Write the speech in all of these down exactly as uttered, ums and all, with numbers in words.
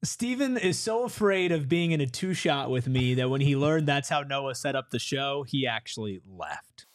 Steven is so afraid of being in a two-shot with me that when he learned that's how Noah set up the show, he actually left.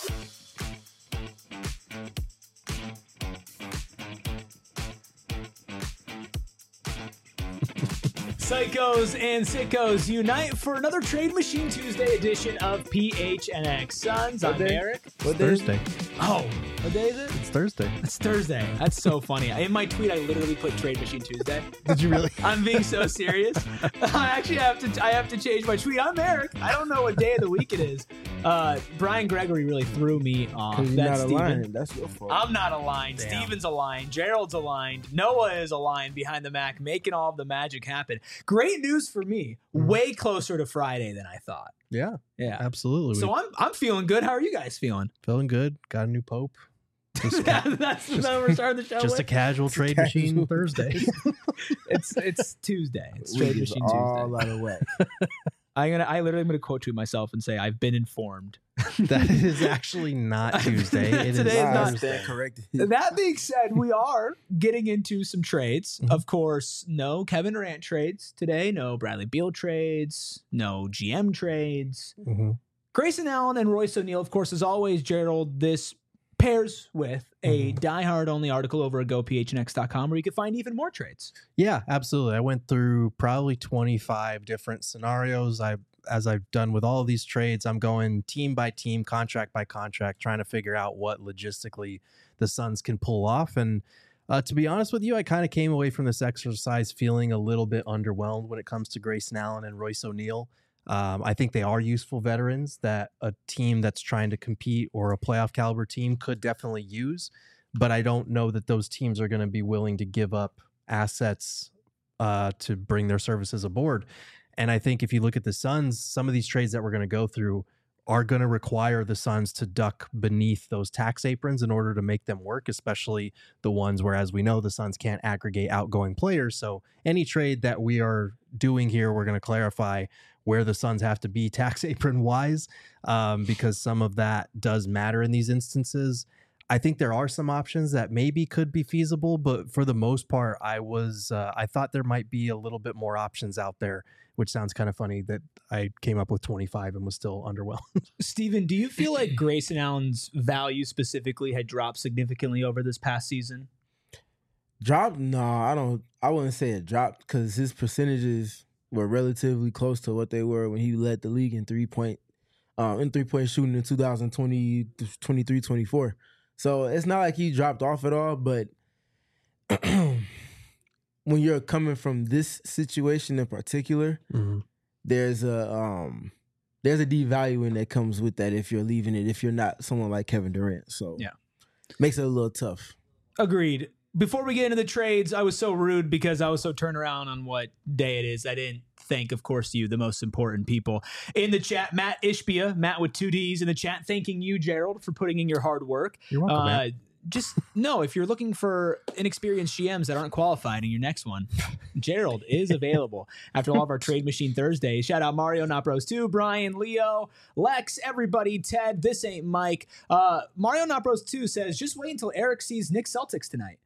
Psychos and sickos unite for another Trade Machine Tuesday edition of P H N X Suns. I'm Eric. It's Thursday. Oh, what day is it? It's Thursday. It's Thursday. That's so funny. In my tweet, I literally put Trade Machine Tuesday. Did you really? I'm being so serious. I actually have to. I have to change my tweet. I'm Eric. I don't know what day of the week it is. Uh, Brian Gregory really threw me off. You're That's not Steven. aligned. That's your fault. I'm not aligned. Damn. Steven's aligned. Gerald's aligned. Noah is aligned behind the Mac, making all of the magic happen. Great news for me. Way closer to Friday than I thought. Yeah, Yeah. absolutely. So I'm I'm feeling good. How are you guys feeling? Feeling good. Got a new pope. Just, ca- That's the we're starting the show just a with. casual trade casual. machine Thursday. It's it's Tuesday. It's We Trade just Machine all Tuesday. out of whack. I'm gonna I literally am gonna quote tweet myself and say I've been informed. That is actually not Tuesday. It is Today is Nah, not- Thursday. stand corrected. That being said, we are getting into some trades. Mhm. Of course, no Kevin Durant trades today, no Bradley Beal trades, no G M trades. Mhm. Grayson Allen and Royce O'Neal, of course, as always, Gerald, this pairs with a Mhm. diehard only article over at go p h n x dot com where you can find even more trades. Yeah, absolutely. I went through probably twenty-five different scenarios. I, as I've done with all of these trades, I'm going team by team, contract by contract, trying to figure out what logistically the Suns can pull off. And uh, to be honest with you, I kind of came away from this exercise feeling a little bit underwhelmed when it comes to Grayson Allen and Royce O'Neal. Um, I think they are useful veterans that a team that's trying to compete or a playoff caliber team could definitely use. But I don't know that those teams are going to be willing to give up assets uh, to bring their services aboard. And I think if you look at the Suns, some of these trades that we're going to go through are going to require the Suns to duck beneath those tax aprons in order to make them work, especially the ones where, as we know, the Suns can't aggregate outgoing players. So any trade that we are doing here, we're going to clarify where the Suns have to be tax apron wise, um, because some of that does matter in these instances. I think there are some options that maybe could be feasible, but for the most part, I was uh, I thought there might be a little bit more options out there, which sounds kind of funny that I came up with twenty-five and was still underwhelmed. Steven, do you feel like Grayson Allen's value specifically had dropped significantly over this past season? Drop? No, I don't. I wouldn't say it dropped because his percentages were relatively close to what they were when he led the league in three point, um, in three point shooting in two thousand twenty, twenty-three, twenty-four. So it's not like he dropped off at all. But when you're coming from this situation in particular, Mm-hmm. there's a um, there's a devaluing that comes with that if you're leaving it. If you're not someone like Kevin Durant, so Yeah. makes it a little tough. Agreed. Before we get into the trades, I was so rude because I was so turned around on what day it is. I didn't thank, of course, you, the most important people in the chat. Matt Ishbia, Matt with two D's in the chat, thanking you, Gerald, for putting in your hard work. You're welcome, Uh, man. just no, if you're looking for inexperienced G Ms that aren't qualified in your next one, Gerald is available after all of our Trade Machine Thursdays. Shout out Mario, Not Bros two, Brian, Leo, Lex, everybody, Ted, This Ain't Mike. Uh, Mario Not Bros two says, just wait until Eric sees Knicks Celtics tonight.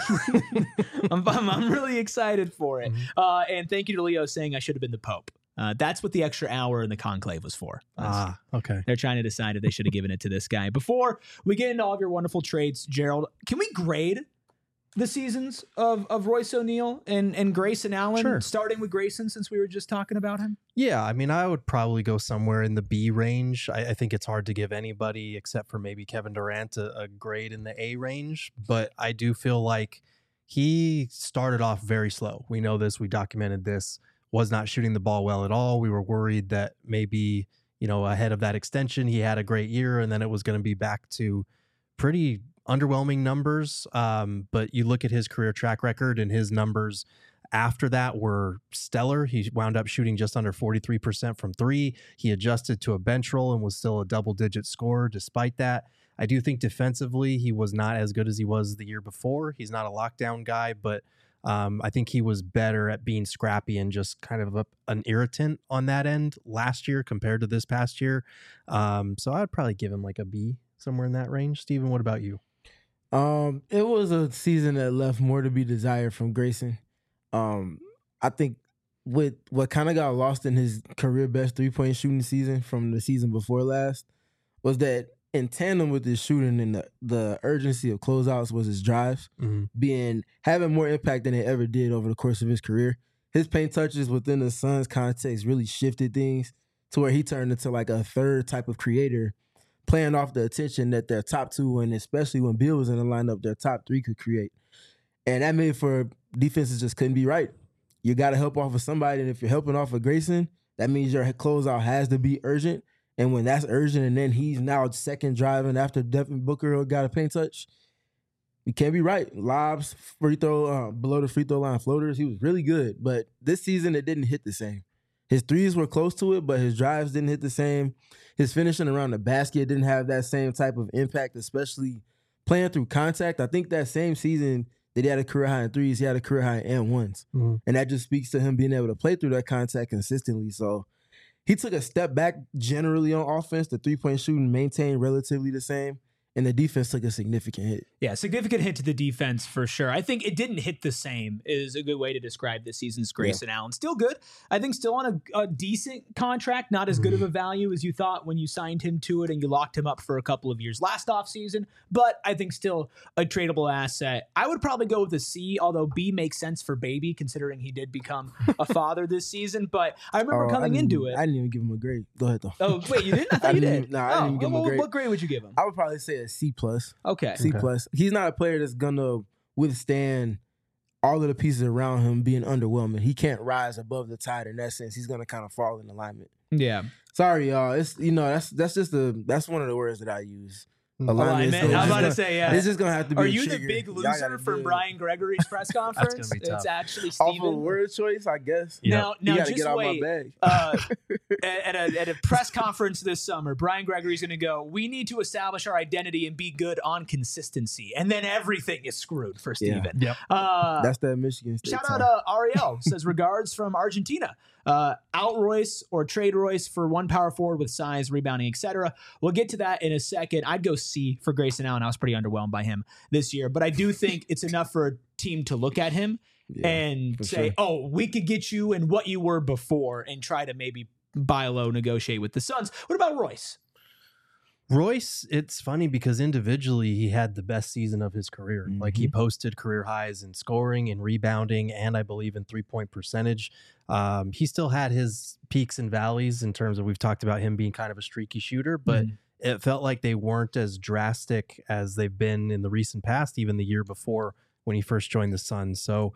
I'm, I'm, I'm really excited for it. Uh, and thank you to Leo saying I should have been the Pope. Uh, that's what the extra hour in the conclave was for. That's- Ah, okay. They're trying to decide if they should have given it to this guy. Before we get into all of your wonderful trades, Gerald, can we grade the seasons of, of Royce O'Neal and, and Grayson Allen, Sure. starting with Grayson since we were just talking about him? Yeah, I mean, I would probably go somewhere in the B range. I, I think it's hard to give anybody except for maybe Kevin Durant a, a grade in the A range, but I do feel like he started off very slow. We know this. We documented this. Was not shooting the ball well at all. We were worried that maybe, you know, ahead of that extension, he had a great year and then it was going to be back to pretty underwhelming numbers. Um, but you look at his career track record and his numbers after that were stellar. He wound up shooting just under forty-three percent from three. He adjusted to a bench role and was still a double-digit scorer despite that. I do think defensively he was not as good as he was the year before. He's not a lockdown guy, but um, I think he was better at being scrappy and just kind of a, an irritant on that end last year compared to this past year. Um, so I'd probably give him like a B, somewhere in that range. Steven, what about you? Um, it was a season that left more to be desired from Grayson. Um, I think with what kind of got lost in his career best three point shooting season from the season before last was that in tandem with his shooting and the, the urgency of closeouts was his drives Mm-hmm. being having more impact than it ever did over the course of his career. His paint touches within the Suns context really shifted things to where he turned into like a third type of creator, playing off the attention that their top two, and especially when Beal was in the lineup, their top three could create. And that made for defenses just couldn't be right. You got to help off of somebody, and if you're helping off of Grayson, that means your closeout has to be urgent. And when that's urgent, and then he's now second driving after Devin Booker got a paint touch, you can't be right. Lobs, free throw, uh, below the free throw line floaters, he was really good. But this season, it didn't hit the same. His threes were close to it, but his drives didn't hit the same. His finishing around the basket didn't have that same type of impact, especially playing through contact. I think that same season that he had a career high in threes, he had a career high in and ones. Mm-hmm. And that just speaks to him being able to play through that contact consistently. So he took a step back generally on offense. The three-point shooting maintained relatively the same, and the defense took a significant hit. Yeah, significant hit to the defense for sure. I think it didn't hit the same is a good way to describe this season's Grayson yeah. Allen. Still good. I think still on a, a decent contract, not as good of a value as you thought when you signed him to it and you locked him up for a couple of years last offseason, but I think still a tradable asset. I would probably go with a C, although B makes sense for baby considering he did become a father this season, but I remember oh, coming I into it. I didn't even give him a grade. Go ahead, though. Oh, wait, you didn't? I thought I you didn't, did. No, I oh, didn't even give him well, a grade. What grade would you give him? I would probably say a C plus. Okay. C Okay. plus. He's not a player that's gonna withstand all of the pieces around him being underwhelming. He can't rise above the tide in that sense. He's gonna kind of fall in alignment. Yeah. Sorry, y'all. It's you know that's that's just the that's one of the words that I use. Alignment. So I was it's about just to gonna- say, yeah. It's just gonna have to be. Are a you the trigger. big Y'all loser gotta from deal. Brian Gregory's press conference? That's gonna be It's tough. actually Off of Steven. word choice, I guess. Yeah. Now, You now gotta just get out wait. my bag. Uh, at, a, at a press conference this summer, Brian Gregory's going to go, we need to establish our identity and be good on consistency. And then everything is screwed for Yeah. Steven. Yep. Uh, That's that Michigan State. Shout time. out uh, Ariel says regards from Argentina. Uh, out Royce or trade Royce for one power forward with size, rebounding, et cetera. We'll get to that in a second. I'd go C for Grayson Allen. I was pretty underwhelmed by him this year, but I do think it's enough for a team to look at him Yeah, and for say, sure. oh, we could get you and what you were before and try to maybe buy low, negotiate with the Suns. What about Royce? Royce, it's funny because individually he had the best season of his career. Mm-hmm. Like he posted career highs in scoring and rebounding, and I believe in three point percentage. Um, he still had his peaks and valleys in terms of we've talked about him being kind of a streaky shooter, but Mhm. it felt like they weren't as drastic as they've been in the recent past, even the year before when he first joined the Suns. So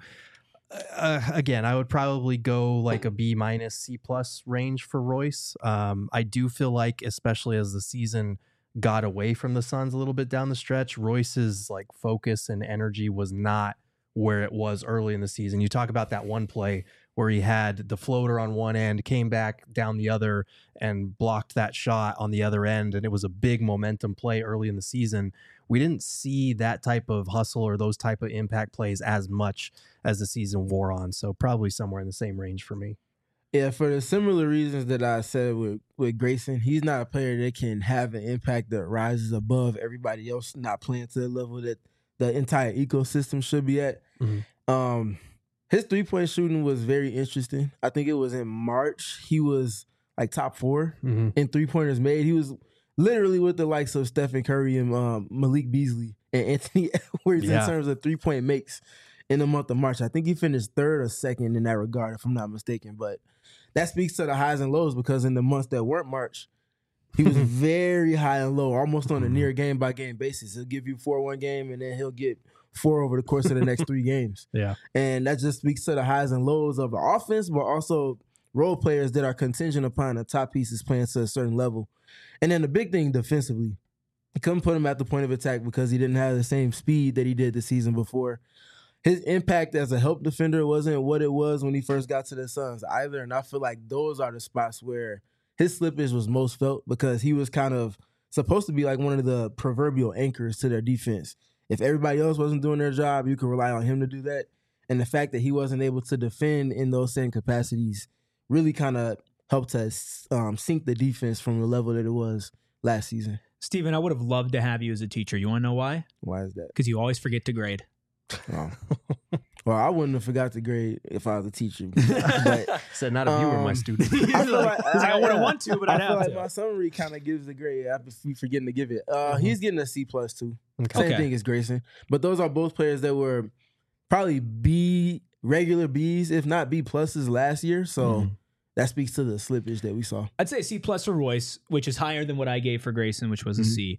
uh, again, I would probably go like a B minus C plus range for Royce. Um, I do feel like, especially as the season got away from the Suns a little bit down the stretch, Royce's like focus and energy was not where it was early in the season. You talk about that one play where he had the floater on one end, came back down the other and blocked that shot on the other end. And it was a big momentum play early in the season. We didn't see that type of hustle or those type of impact plays as much as the season wore on. So probably somewhere in the same range for me. Yeah, for the similar reasons that I said with, with Grayson, he's not a player that can have an impact that rises above everybody else not playing to the level that the entire ecosystem should be at. Mm-hmm. Um, his three-point shooting was very interesting. I think it was in March. He was like top four Mm-hmm. in three-pointers made. He was literally with the likes of Stephen Curry and um, Malik Beasley and Anthony Edwards Yeah. in terms of three-point makes in the month of March. I think he finished third or second in that regard, if I'm not mistaken. But that speaks to the highs and lows because in the months that weren't March, he was very high and low, almost on a near game-by-game basis. He'll give you four one game, and then he'll get four over the course of the next three games. Yeah. And that just speaks to the highs and lows of the offense, but also role players that are contingent upon the top pieces playing to a certain level. And then the big thing defensively, you couldn't put him at the point of attack because he didn't have the same speed that he did the season before. His impact as a help defender wasn't what it was when he first got to the Suns either. And I feel like those are the spots where his slippage was most felt because he was kind of supposed to be like one of the proverbial anchors to their defense. If everybody else wasn't doing their job, you could rely on him to do that. And the fact that he wasn't able to defend in those same capacities really kind of helped us um, sink the defense from the level that it was last season. Steven, I would have loved to have you as a teacher. You want to know why? Why is that? Because you always forget to grade. Oh. Well, I wouldn't have forgot the grade if I was a teacher. But Said not if you were my um, student. I feel like He's like, I wouldn't want to, but I I'd feel have like to. my summary kind of gives the grade after we forgetting to give it. Uh, Mhm. He's getting a C plus too. Okay. Same Okay. thing as Grayson. But those are both players that were probably B regular Bs, if not B pluses last year. So Mhm. that speaks to the slippage that we saw. I'd say C plus for Royce, which is higher than what I gave for Grayson, which was a Mhm. C.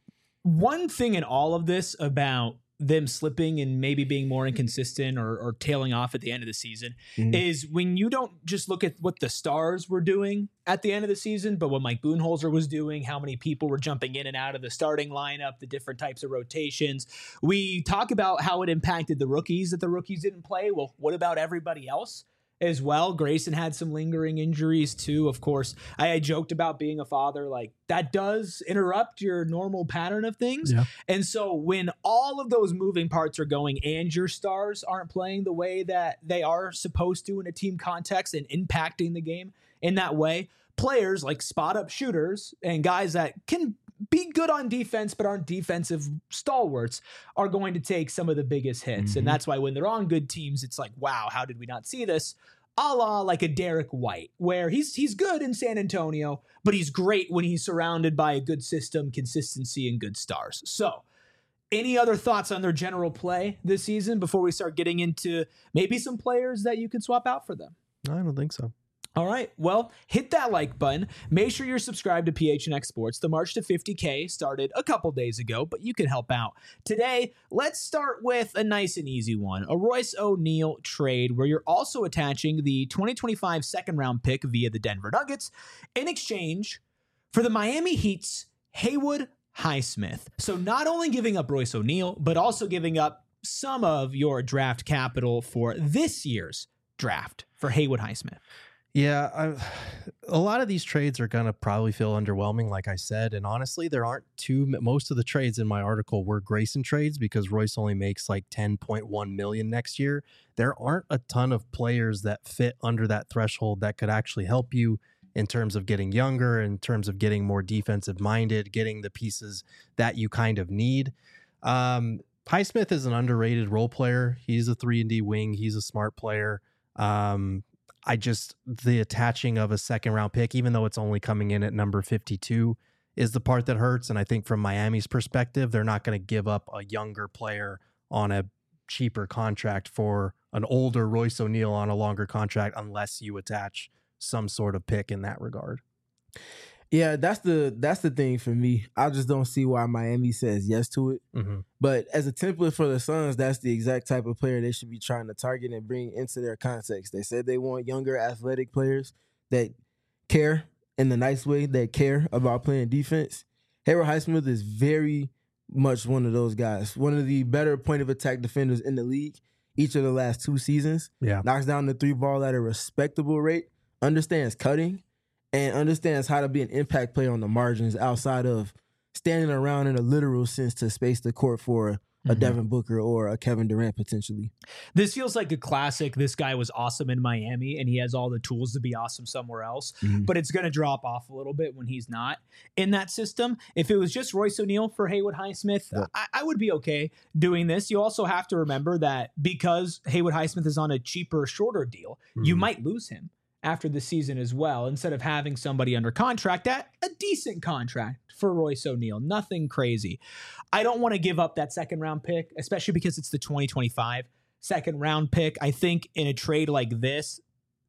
One thing in all of this about them slipping and maybe being more inconsistent or, or tailing off at the end of the season Mhm. is when you don't just look at what the stars were doing at the end of the season, but what Mike Budenholzer was doing, how many people were jumping in and out of the starting lineup, the different types of rotations. We talk about how it impacted the rookies, that the rookies didn't play. Well, what about everybody else as well? Grayson had some lingering injuries too. Of course, I, I joked about being a father. Like that does interrupt your normal pattern of things. Yeah. And so when all of those moving parts are going and your stars aren't playing the way that they are supposed to in a team context and impacting the game in that way, players like spot up shooters and guys that can be good on defense but aren't defensive stalwarts are going to take some of the biggest hits. Mhm. And that's why when they're on good teams, it's like, wow, how did we not see this? A la like a Derek White, where he's he's good in San Antonio, but he's great when he's surrounded by a good system, consistency, and good stars. So any other thoughts on their general play this season before we start getting into maybe some players that you can swap out for them? I don't think so. All right. Well, hit that like button. Make sure you're subscribed to P H N X Sports. The March to fifty K started a couple days ago, but you can help out. Today, let's start with a nice and easy one, a Royce O'Neal trade where you're also attaching the twenty twenty-five second round pick via the Denver Nuggets in exchange for the Miami Heat's Haywood Highsmith. So not only giving up Royce O'Neal, but also giving up some of your draft capital for this year's draft for Haywood Highsmith. Yeah, I, a lot of these trades are going to probably feel underwhelming, like I said. And honestly, there aren't too, most of the trades in my article were Grayson trades because Royce only makes like ten point one million next year. There aren't a ton of players that fit under that threshold that could actually help you in terms of getting younger, in terms of getting more defensive minded, getting the pieces that you kind of need. Um, Highsmith is an underrated role player. He's a three and D wing. He's a smart player. Um, I just, the attaching of a second round pick, even though it's only coming in at number fifty-two, is the part that hurts. And I think from Miami's perspective, they're not going to give up a younger player on a cheaper contract for an older Royce O'Neal on a longer contract unless you attach some sort of pick in that regard. Yeah, that's the that's the thing for me. I just don't see why Miami says yes to it. Mm-hmm. But as a template for the Suns, that's the exact type of player they should be trying to target and bring into their context. They said they want younger, athletic players that care in the nice way, that care about playing defense. Haywood Highsmith is very much one of those guys. One of the better point of attack defenders in the league each of the last two seasons. Yeah. Knocks down the three ball at a respectable rate, understands cutting, and understands how to be an impact player on the margins outside of standing around in a literal sense to space the court for a Mhm. Devin Booker or a Kevin Durant potentially. This feels like a classic. This guy was awesome in Miami and he has all the tools to be awesome somewhere else, Mhm. but it's going to drop off a little bit when he's not in that system. If it was just Royce O'Neal for Haywood Highsmith, Yeah. I, I would be okay doing this. You also have to remember that because Haywood Highsmith is on a cheaper, shorter deal, you Mhm. might lose him after the season as well, instead of having somebody under contract at a decent contract for Royce O'Neal. Nothing crazy. I don't want to give up that second round pick, especially because it's the twenty twenty-five second round pick. I think in a trade like this,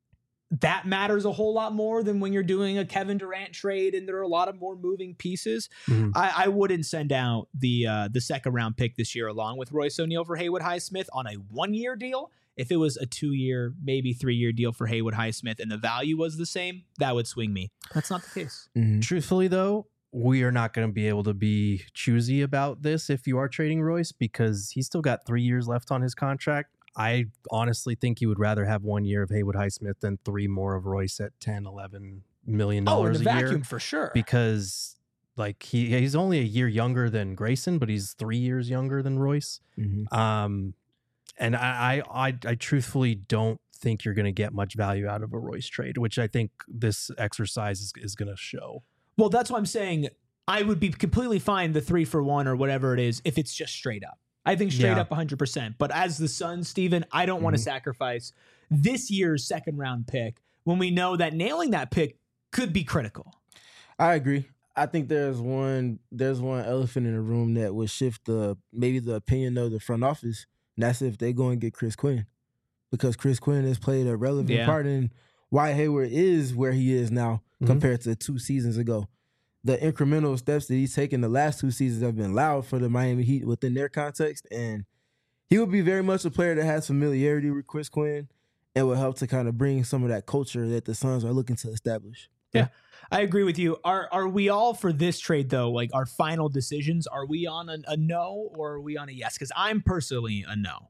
that matters a whole lot more than when you're doing a Kevin Durant trade and there are a lot of more moving pieces. Mhm. I, I wouldn't send out the uh, the second round pick this year along with Royce O'Neal for Haywood Highsmith on a one year deal. If it was a two year, maybe three year deal for Haywood Highsmith and the value was the same, that would swing me. That's not the case. Mhm. Truthfully, though, we are not going to be able to be choosy about this if you are trading Royce because he's still got three years left on his contract. I honestly think you would rather have one year of Haywood Highsmith than three more of Royce at ten, eleven million Oh, in dollars the a vacuum year for sure. because like he he's only a year younger than Grayson, but he's three years younger than Royce. Mhm. Um, and I, I, I, I truthfully don't think you're going to get much value out of a Royce trade, which I think this exercise is, is going to show. Well, that's what I'm saying. I would be completely fine the three for one or whatever it is if it's just straight up. I think straight Yeah. up one hundred percent. But as the Suns, Steven, I don't want to sacrifice this year's second round pick when we know that nailing that pick could be critical. I agree. I think there's one there's one elephant in the room that would shift the maybe the opinion of the front office, and that's if they go and get Chris Quinn, because Chris Quinn has played a relevant Yeah. part in why Hayward is where he is now Mhm. compared to two seasons ago. The incremental steps that he's taken the last two seasons have been loud for the Miami Heat within their context, and he would be very much a player that has familiarity with Chris Quinn and will help to kind of bring some of that culture that the Suns are looking to establish. I agree with you. Are are we all for this trade though? Like our final decisions, are we on a, a no or are we on a yes? Because I'm personally a no.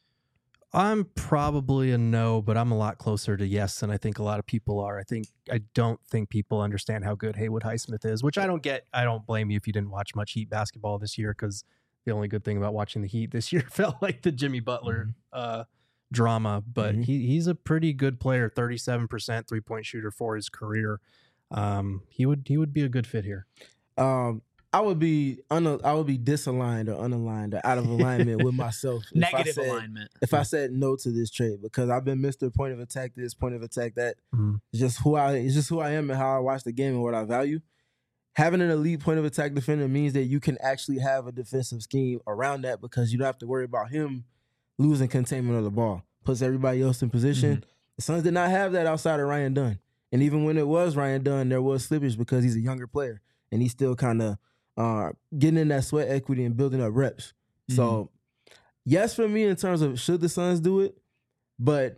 I'm probably a no, but I'm a lot closer to yes than I think a lot of people are. I think I don't think people understand how good Haywood Highsmith is, which I don't get. I don't blame you if you didn't watch much Heat basketball this year, because the only good thing about watching the Heat this year felt like the Jimmy Butler uh, drama. But Mhm. he he's a pretty good player, thirty-seven percent three-point shooter for his career. Um, he would he would be a good fit here. Um, I would be un- I would be disaligned or unaligned or out of alignment with myself. if I Negative said- alignment. If I said no to this trade, because I've been Mister Point of Attack this, point of attack that. Mhm. It's just who I it's just who I am and how I watch the game and what I value. Having an elite point of attack defender means that you can actually have a defensive scheme around that, because you don't have to worry about him losing containment of the ball. Puts everybody else in position. The Suns did not have that outside of Ryan Dunn. And even when it was Ryan Dunn, there was slippage because he's a younger player and he's still kind of uh, getting in that sweat equity and building up reps. So, yes, for me in terms of should the Suns do it, but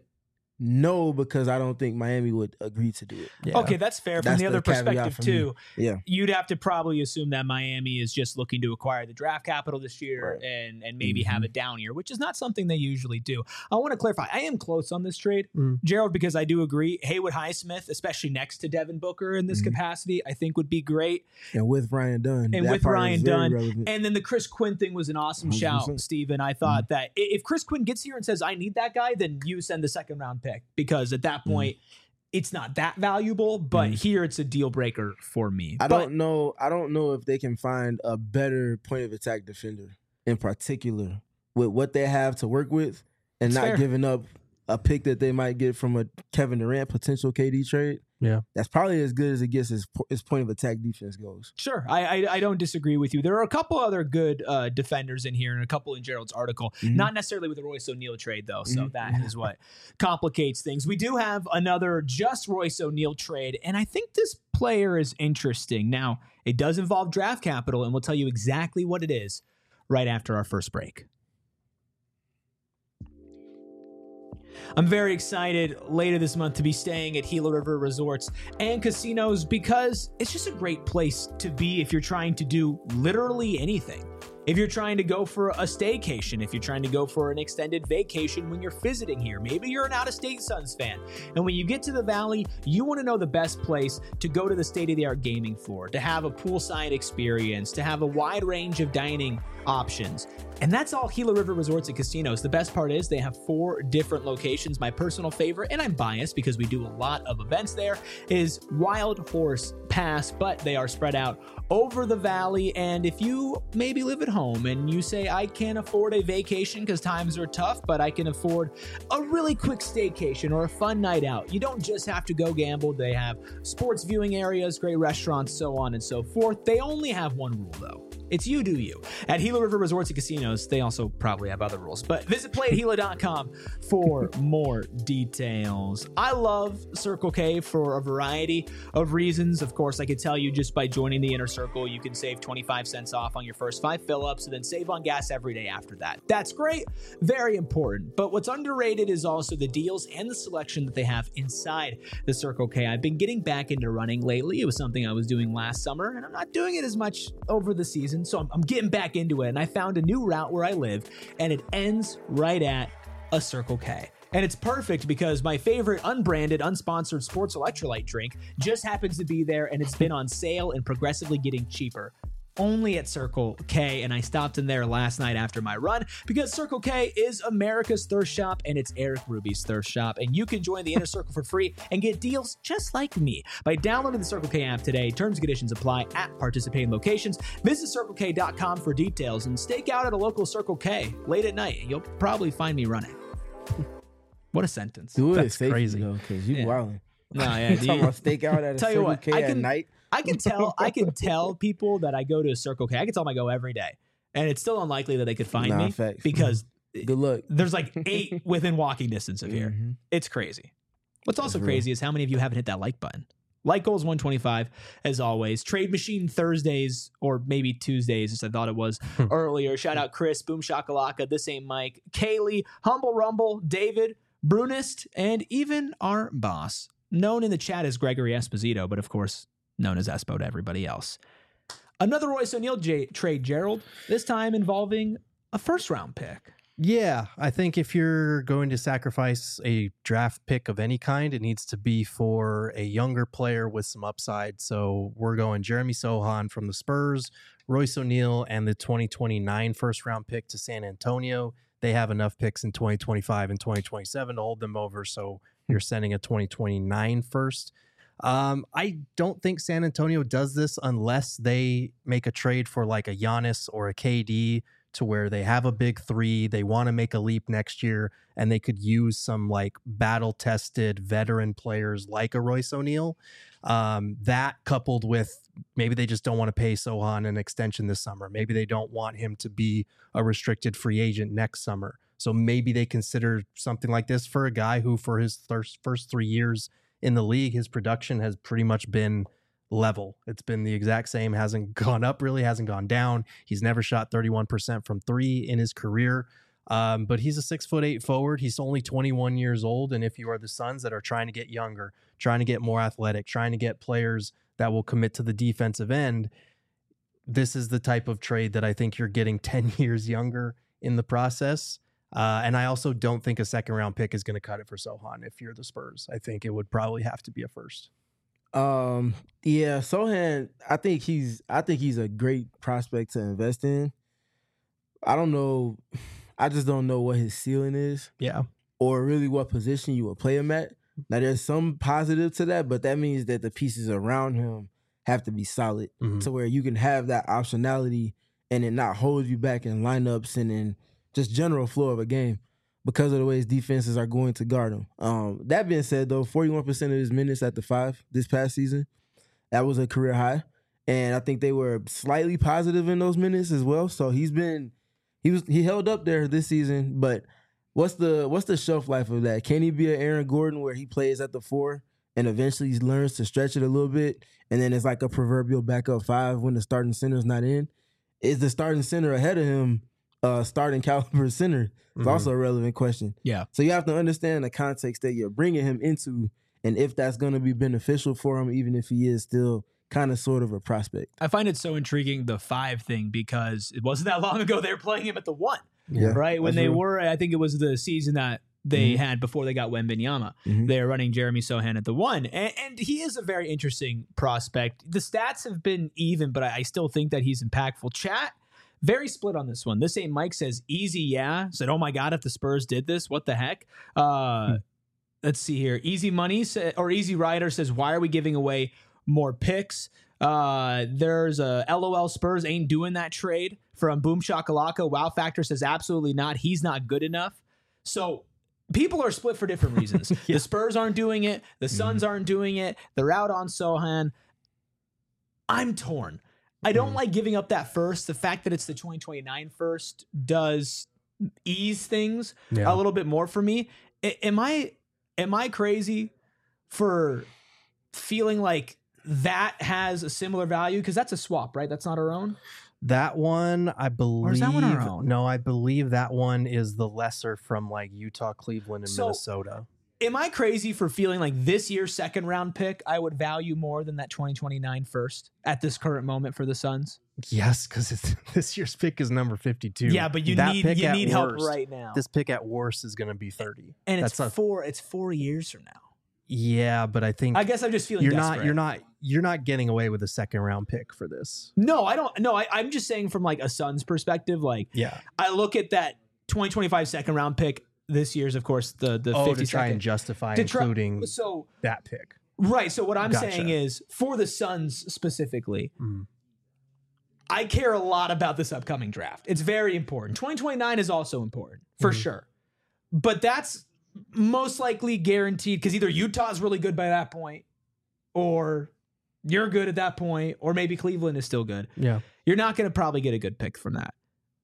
no, because I don't think Miami would agree to do it. Yeah. Okay, that's fair. From That's the other the caveat perspective for me. too, Yeah. you'd have to probably assume that Miami is just looking to acquire the draft capital this year Right. and and maybe Mhm. have a down year, which is not something they usually do. I want to clarify. I am close on this trade, Mm. Gerald, because I do agree. Haywood Highsmith, especially next to Devin Booker in this Mhm. capacity, I think would be great. And with Ryan Dunn. And that with part is Ryan very Dunn, relevant. And then the Chris Quinn thing was an awesome one hundred shout, percent. Steven. I thought Mm-hmm. that i- if Chris Quinn gets here and says, I need that guy, then you send the second round pick, because at that Mm-hmm. point, it's not that valuable, but Mhm. here it's a deal breaker for me. I But- don't know. I don't know if they can find a better point of attack defender in particular with what they have to work with, and It's not fair. giving up a pick that they might get from a Kevin Durant potential K D trade. Yeah. That's probably as good as it gets as, po- as point of attack defense goes. Sure, I, I I don't disagree with you. There are a couple other good uh, defenders in here, and a couple in Gerald's article. Mhm. Not necessarily with the Royce O'Neal trade, though, so Mhm. that is what complicates things. We do have another just Royce O'Neal trade, and I think this player is interesting. Now, it does involve draft capital, and we'll tell you exactly what it is right after our first break. I'm very excited later this month to be staying at Gila River Resorts and Casinos, because it's just a great place to be if you're trying to do literally anything. If you're trying to go for a staycation, if you're trying to go for an extended vacation when you're visiting here, maybe you're an out-of-state Suns fan, and when you get to the Valley, you want to know the best place to go to the state-of-the-art gaming floor, to have a poolside experience, to have a wide range of dining options. And that's all Gila River Resorts and Casinos. The best part is they have four different locations. My personal favorite, and I'm biased because we do a lot of events there, is Wild Horse Pass, but they are spread out over the Valley. And if you maybe live at home and you say, I can't afford a vacation because times are tough, but I can afford a really quick staycation or a fun night out, you don't just have to go gamble. They have sports viewing areas, great restaurants, so on and so forth. They only have one rule, though. It's you do you. At Gila River Resorts and Casinos, they also probably have other rules, but visit play at gila dot com for more details. I love Circle K for a variety of reasons. Of course, I could tell you just by joining the Inner Circle, you can save twenty-five cents off on your first five fill-ups and then save on gas every day after that. That's great. Very important. But what's underrated is also the deals and the selection that they have inside the Circle K. I've been getting back into running lately. It was something I was doing last summer, and I'm not doing it as much over the season. So I'm, I'm getting back into it, and I found a new route where I live, and it ends right at a Circle K. And it's perfect because my favorite unbranded, unsponsored sports electrolyte drink just happens to be there, and it's been on sale and progressively getting cheaper only at Circle K, and I stopped in there last night after my run because Circle K is America's thirst shop and it's Eric Ruby's thirst shop, and you can join the inner circle for free and get deals just like me by downloading the Circle K app today. Terms and conditions apply at participating locations. Visit circle k dot com for details and stake out at a local Circle K late at night. You'll probably find me running. What a sentence. Do it That's safely, crazy. though, because you Yeah. wilding. No, yeah, You talking about stake out at a Tell you Circle what, K I at can- night? I can tell I can tell people that I go to Circle K. I can tell them I go every day, and it's still unlikely that they could find Nah, me facts. because Good luck. there's like eight within walking distance of here. Mhm. It's crazy. What's also real. crazy is how many of you haven't hit that like button. Like goal is one twenty-five as always. Trade Machine Thursdays or maybe Tuesdays, as I thought it was earlier. Shout out Chris, Boom Shakalaka, This Ain't Mike, Kaylee, Humble Rumble, David, Brunist, and even our boss, known in the chat as Gregory Esposito, but of course known as Espo to everybody else. Another Royce O'Neal J- trade, Gerald, this time involving a first round pick. Yeah, I think if you're going to sacrifice a draft pick of any kind, it needs to be for a younger player with some upside. So we're going Jeremy Sohan from the Spurs, Royce O'Neal, and the twenty twenty-nine first round pick to San Antonio. They have enough picks in twenty twenty-five and twenty twenty-seven to hold them over. So you're sending a twenty twenty-nine first. Um, I don't think San Antonio does this unless they make a trade for like a Giannis or a K D, to where they have a big three, they want to make a leap next year, and they could use some like battle-tested veteran players like a Royce O'Neal. Um, that coupled with maybe they just don't want to pay Sohan an extension this summer. Maybe they don't want him to be a restricted free agent next summer. So maybe they consider something like this for a guy who, for his first first three years in the league, his production has pretty much been level. It's been the exact same, hasn't gone up really, hasn't gone down. He's never shot thirty-one percent from three in his career. Um, but he's a six foot eight forward. He's only twenty-one years old. And if you are the Suns that are trying to get younger, trying to get more athletic, trying to get players that will commit to the defensive end, this is the type of trade that I think you're getting ten years younger in the process. Uh, and I also don't think a second round pick is going to cut it for Sohan if you're the Spurs. I think it would probably have to be a first. Um, yeah, Sohan, I think he's I think he's a great prospect to invest in. I don't know, I just don't know what his ceiling is. Yeah. Or really what position you would play him at. Now there's some positive to that, but that means that the pieces around him have to be solid Mhm. to where you can have that optionality and it not hold you back in lineups and in just general flow of a game because of the way his defenses are going to guard him. Um, that being said, though, forty-one percent of his minutes at the five this past season, that was a career high. And I think they were slightly positive in those minutes as well. So he's been, he was, he held up there this season, but what's the, what's the shelf life of that? Can he be an Aaron Gordon where he plays at the four and eventually he learns to stretch it a little bit? And then it's like a proverbial backup five when the starting center's not in. Is the starting center ahead of him uh, starting caliber center? It's Mhm. also a relevant question. Yeah. So you have to understand the context that you're bringing him into and if that's going to be beneficial for him, even if he is still kind of sort of a prospect. I find it so intriguing, the five thing, because it wasn't that long ago they were playing him at the one, Yeah. right? When that's they real. were, I think it was the season that they Mhm. had before they got Wembanyama. Mhm. They're running Jeremy Sohan at the one, and, and he is a very interesting prospect. The stats have been even, but I, I still think that he's impactful. Chat, very split on this one. This ain't Mike says easy, yeah. Said, oh my God, if the Spurs did this, what the heck? Uh, Hmm. Let's see here. Easy Money sa- or Easy Rider says, why are we giving away more picks? Uh, there's a LOL Spurs ain't doing that trade from Boom Shakalaka. Wow Factor says, absolutely not. He's not good enough. So people are split for different reasons. Yeah. The Spurs aren't doing it. The Suns aren't doing it. They're out on Sohan. I'm torn. I don't Mhm. like giving up that first. The fact that it's the twenty twenty-nine first does ease things Yeah. a little bit more for me. A- am I am I crazy for feeling like that has a similar value? Because that's a swap, right? That's not our own. That one, I believe. is that one our own? No, I believe that one is the lesser from like Utah, Cleveland, and So- Minnesota. Am I crazy for feeling like this year's second round pick I would value more than that twenty twenty-nine first at this current moment for the Suns? Yes, because this year's pick is number fifty-two. Yeah, but you That need pick you at need help worst- right now. This pick at worst is going to be thirty. and it's that's a- four it's four years from now. Yeah, but I think I guess I'm just feeling you're desperate. not. You're not. you're not getting away with a second round pick for this. No, I don't. No, I, I'm just saying from like a Suns perspective. Like, Yeah. I look at that twenty twenty-five second round pick. This year's, of course, the the Oh, fifty to try second. and justify To try- including So that pick. right. So what I'm Gotcha. saying is for the Suns specifically, Mm. I care a lot about this upcoming draft. It's very important. twenty twenty-nine is also important for Mhm. sure, but that's most likely guaranteed because either Utah's really good by that point, or you're good at that point, or maybe Cleveland is still good. Yeah. You're not going to probably get a good pick from that.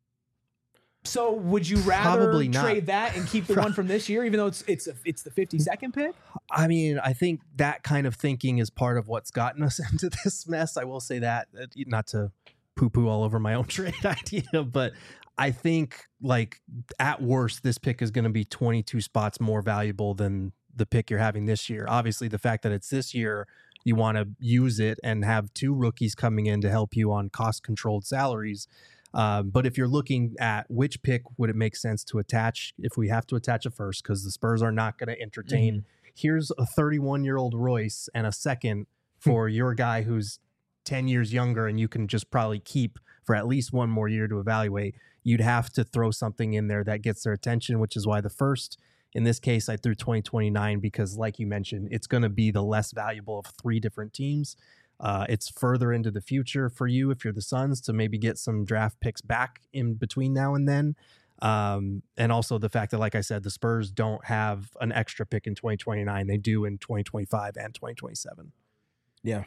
So would you rather Probably not. trade that and keep the one from this year, even though it's it's a, it's the fifty-second pick? I mean, I think that kind of thinking is part of what's gotten us into this mess. I will say that, uh, not to poo-poo all over my own trade idea, but I think like at worst, this pick is going to be twenty-two spots more valuable than the pick you're having this year. Obviously, the fact that it's this year, you want to use it and have two rookies coming in to help you on cost-controlled salaries. Um, but if you're looking at which pick would it make sense to attach, if we have to attach a first, because the Spurs are not going to entertain, Mhm. here's a thirty-one-year-old Royce and a second for your guy who's ten years younger and you can just probably keep for at least one more year to evaluate, you'd have to throw something in there that gets their attention, which is why the first, in this case, I threw twenty twenty-nine because, like you mentioned, it's going to be the less valuable of three different teams. Uh, it's further into the future for you if you're the Suns to maybe get some draft picks back in between now and then. Um, and also the fact that, like I said, the Spurs don't have an extra pick in twenty twenty-nine. They do in twenty twenty-five and twenty twenty-seven. Yeah.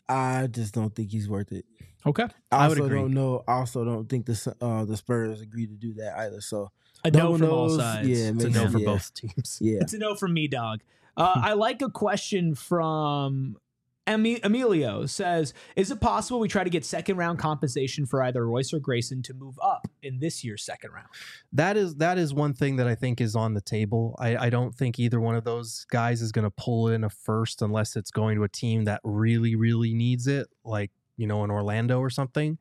I just don't think he's worth it. Okay, I I would also agree. don't know. I also don't think the Su- uh, the Spurs agreed to do that either. So a no no one from all knows. sides. Yeah, It's a makes- no for yeah. both teams. yeah. It's a no from me, dog. Uh, I like a question from Emi- Emilio. Says, is it possible we try to get second round compensation for either Royce or Grayson to move up in this year's second round? That is that is one thing that I think is on the table. I, I don't think either one of those guys is going to pull in a first unless it's going to a team that really, really needs it, like, you know, in Orlando or something.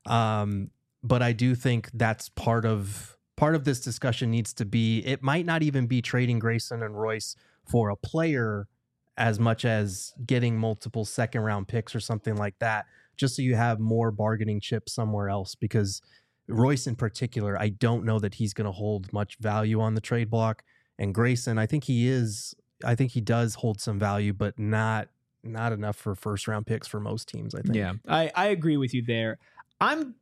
Um, but I do think that's part of part of this discussion needs to be, it might not even be trading Grayson and Royce for a player as much as getting multiple second round picks or something like that, just so you have more bargaining chips somewhere else. Because Royce in particular, I don't know that he's going to hold much value on the trade block. And Grayson, I think he is, I think he does hold some value, but not not enough for first round picks for most teams, I think. Yeah, I, I agree with you there. I'm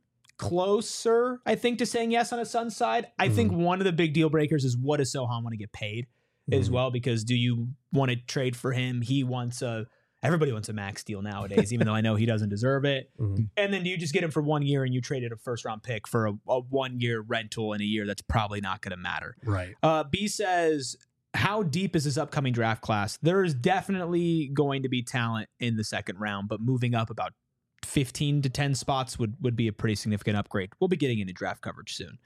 closer, I think, to saying yes on a Suns side. I think one of the big deal breakers is what does Sohan want to get paid as Mhm. well, because do you want to trade for him? He wants a, everybody wants a max deal nowadays, even though I know he doesn't deserve it. Mhm. And then do you just get him for one year and you traded a first round pick for a, a one year rental in a year that's probably not going to matter? Right. Uh, B says, how deep is this upcoming draft class? There is definitely going to be talent in the second round, but moving up about fifteen to ten spots would, would be a pretty significant upgrade. We'll be getting into draft coverage soon.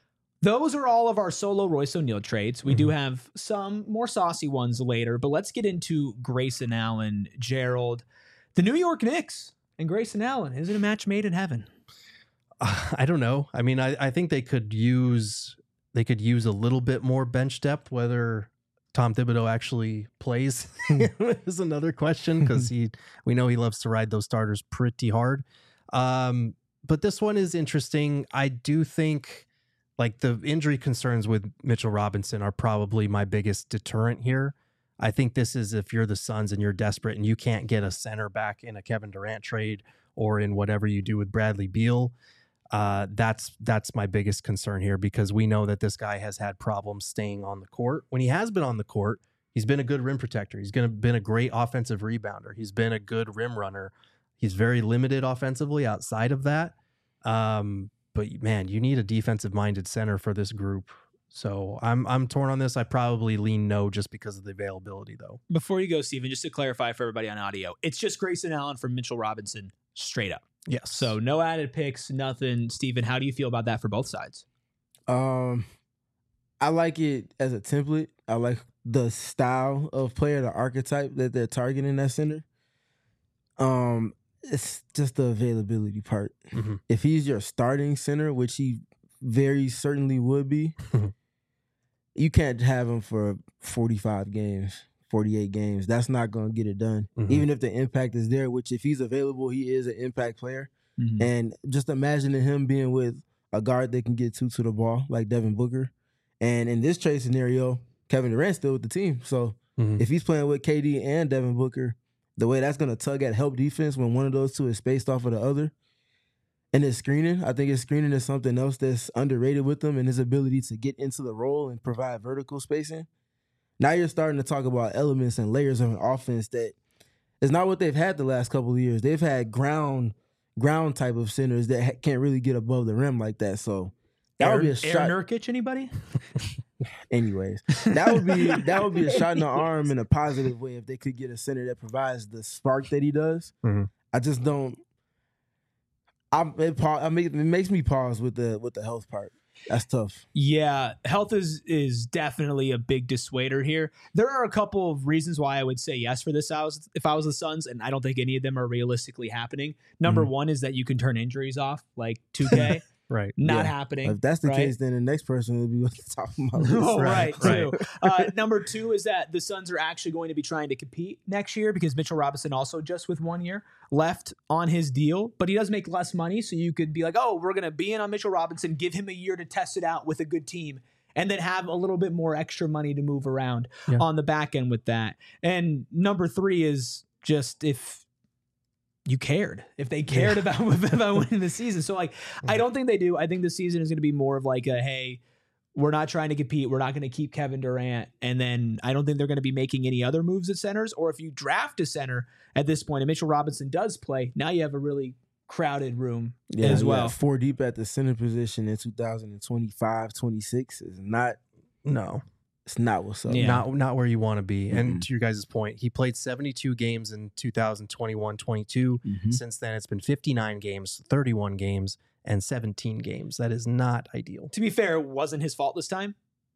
Those are all of our solo Royce O'Neal trades. We do have some more saucy ones later, but let's get into Grayson Allen, Gerald. The New York Knicks and Grayson Allen. Is it a match made in heaven? Uh, I don't know. I mean, I, I think they could use they could use a little bit more bench depth. Whether Tom Thibodeau actually plays is another question, because he we know he loves to ride those starters pretty hard. Um, but this one is interesting. I do think like the injury concerns with Mitchell Robinson are probably my biggest deterrent here. I think this is if you're the Suns and you're desperate and you can't get a center back in a Kevin Durant trade or in whatever you do with Bradley Beal. Uh, that's that's my biggest concern here, because we know that this guy has had problems staying on the court. When he has been on the court, he's been a good rim protector. He's gonna been a great offensive rebounder. He's been a good rim runner. He's very limited offensively outside of that. Um, but man, you need a defensive minded center for this group. So I'm I'm torn on this. I probably lean no just because of the availability, though. Before you go, Steven, just to clarify for everybody on audio, it's just Grayson Allen for Mitchell Robinson straight up. Yes. So no added picks, nothing. Steven, how do you feel about that for both sides? Um, I like it as a template. I like the style of player, the archetype that they're targeting that center. Um, it's just the availability part. Mhm. If he's your starting center, which he very certainly would be, you can't have him for forty-five games, forty-eight games. That's not going to get it done. Mm-hmm. Even if the impact is there, which if he's available, he is an impact player. Mm-hmm. And just imagining him being with a guard that can get two to the ball like Devin Booker. And in this trade scenario, Kevin Durant's still with the team. So mm-hmm. if he's playing with K D and Devin Booker, the way that's going to tug at help defense when one of those two is spaced off of the other. And his screening, I think his screening is something else that's underrated with him and his ability to get into the role and provide vertical spacing. Now you're starting to talk about elements and layers of an offense that is not what they've had the last couple of years. They've had ground ground type of centers that ha- can't really get above the rim like that. So that Aaron, would be a shot. Aaron Nurkic, anybody? Anyways, that would be that would be a shot in the arm in a positive way if they could get a center that provides the spark that he does. Mm-hmm. I just don't. I it, I make, it makes me pause with the with the health part. That's tough. Yeah, health is is definitely a big dissuader here. There are a couple of reasons why I would say yes for this. I was if I was the Suns, and I don't think any of them are realistically happening. Number Mm-hmm. one is that you can turn injuries off, like two K. Right. Not Yeah. happening. If that's the right? case, then the next person will be at the top of my list. Oh, right, Right, too. Uh, number two is that the Suns are actually going to be trying to compete next year because Mitchell Robinson also just with one year left on his deal, but he does make less money. So you could be like, oh, we're going to be in on Mitchell Robinson, give him a year to test it out with a good team, and then have a little bit more extra money to move around Yeah. on the back end with that. And number three is just if you cared, if they cared Yeah. about, about winning the season. So like, I don't think they do. I think the season is going to be more of like a, hey, we're not trying to compete. We're not going to keep Kevin Durant. And then I don't think they're going to be making any other moves at centers. Or if you draft a center at this point and Mitchell Robinson does play, now you have a really crowded room Yeah, as yeah, well. four deep at the center position in two thousand twenty-five, twenty-six is not. No. It's not what's up. Yeah. Not not where you want to be. Mm-hmm. And to your guys' point, he played seventy-two games in two thousand twenty-one twenty-two. Mhm. Since then, it's been fifty-nine games, thirty-one games, and seventeen games. That is not ideal. To be fair, it wasn't his fault this time.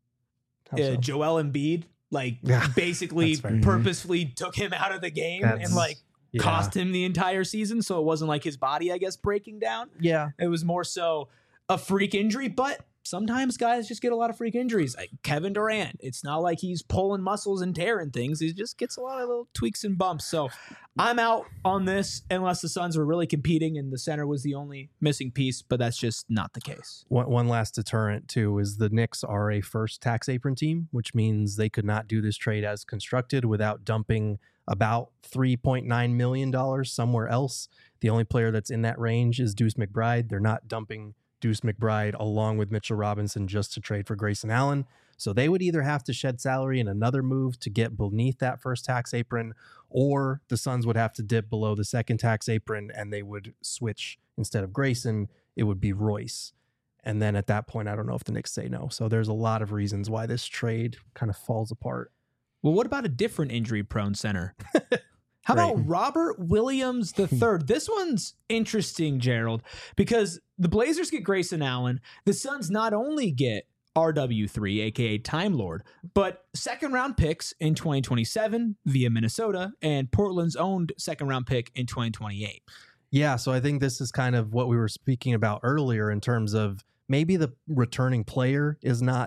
How Uh, so? Joel Embiid, like, Yeah, basically that's fair. purposefully took him out of the game That's- and, like, yeah. cost him the entire season. So it wasn't like his body, I guess, breaking down. Yeah. It was more so a freak injury, but sometimes guys just get a lot of freak injuries. Like Kevin Durant, it's not like he's pulling muscles and tearing things. He just gets a lot of little tweaks and bumps. So I'm out on this unless the Suns were really competing and the center was the only missing piece, but that's just not the case. One, one last deterrent, too, is the Knicks are a first tax apron team, which means they could not do this trade as constructed without dumping about three point nine million dollars somewhere else. The only player that's in that range is Deuce McBride. They're not dumping Deuce McBride along with Mitchell Robinson just to trade for Grayson Allen. So they would either have to shed salary in another move to get beneath that first tax apron, or the Suns would have to dip below the second tax apron and they would switch. Instead of Grayson, it would be Royce. And then at that point, I don't know if the Knicks say no. So there's a lot of reasons why this trade kind of falls apart. Well, what about a different injury-prone center? How Right. about Robert Williams the third? This one's interesting, Gerald, because the Blazers get Grayson Allen. The Suns not only get R W three, a k a. Time Lord, but second-round picks in twenty twenty-seven via Minnesota and Portland's owned second-round pick in twenty twenty-eight. Yeah, so I think this is kind of what we were speaking about earlier in terms of maybe the returning player is not,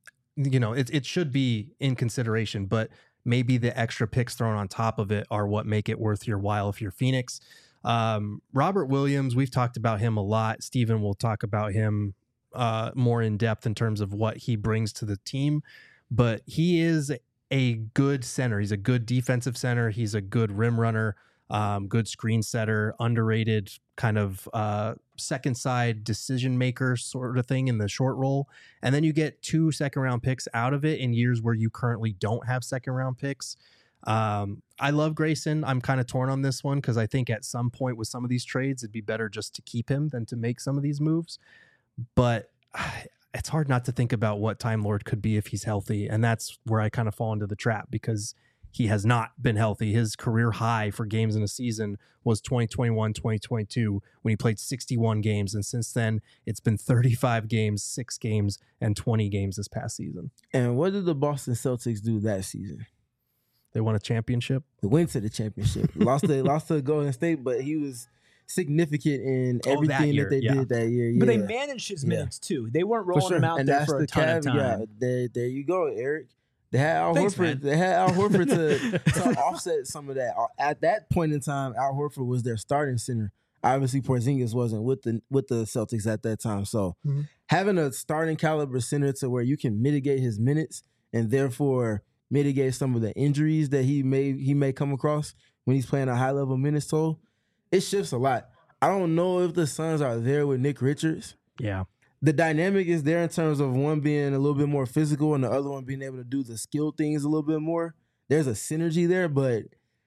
you know, it, it should be in consideration, but maybe the extra picks thrown on top of it are what make it worth your while if you're Phoenix. Um, Robert Williams, we've talked about him a lot. Steven will talk about him uh, more in depth in terms of what he brings to the team, but he is a good center. He's a good defensive center. He's a good rim runner. Um, good screen setter, underrated kind of uh, second side decision maker sort of thing in the short roll. And then you get two second round picks out of it in years where you currently don't have second round picks. Um, I love Grayson. I'm kind of torn on this one because I think at some point with some of these trades, it'd be better just to keep him than to make some of these moves. But it's hard not to think about what Time Lord could be if he's healthy. And that's where I kind of fall into the trap because he has not been healthy. His career high for games in a season was twenty twenty-one, twenty twenty-two when he played sixty-one games. And since then, it's been thirty-five games, six games, and twenty games this past season. And what did the Boston Celtics do that season? They won a championship. They went to the championship. lost to lost to Golden State, but he was significant in Oh, that everything that, year, they yeah. did that year. But they Yeah. managed his Yeah. minutes too. They weren't For rolling sure. him out and there that's for the a ton of caveat. time. There, there you go, Eric. They had Al Thanks, Horford. man. They had Al Horford to, to offset some of that. At that point in time, Al Horford was their starting center. Obviously, Porzingis wasn't with the with the Celtics at that time. So Mm-hmm. having a starting caliber center to where you can mitigate his minutes and therefore mitigate some of the injuries that he may he may come across when he's playing a high level minutes total, it shifts a lot. I don't know if the Suns are there with Nick Richards. Yeah. The dynamic is there in terms of one being a little bit more physical and the other one being able to do the skill things a little bit more. There's a synergy there, but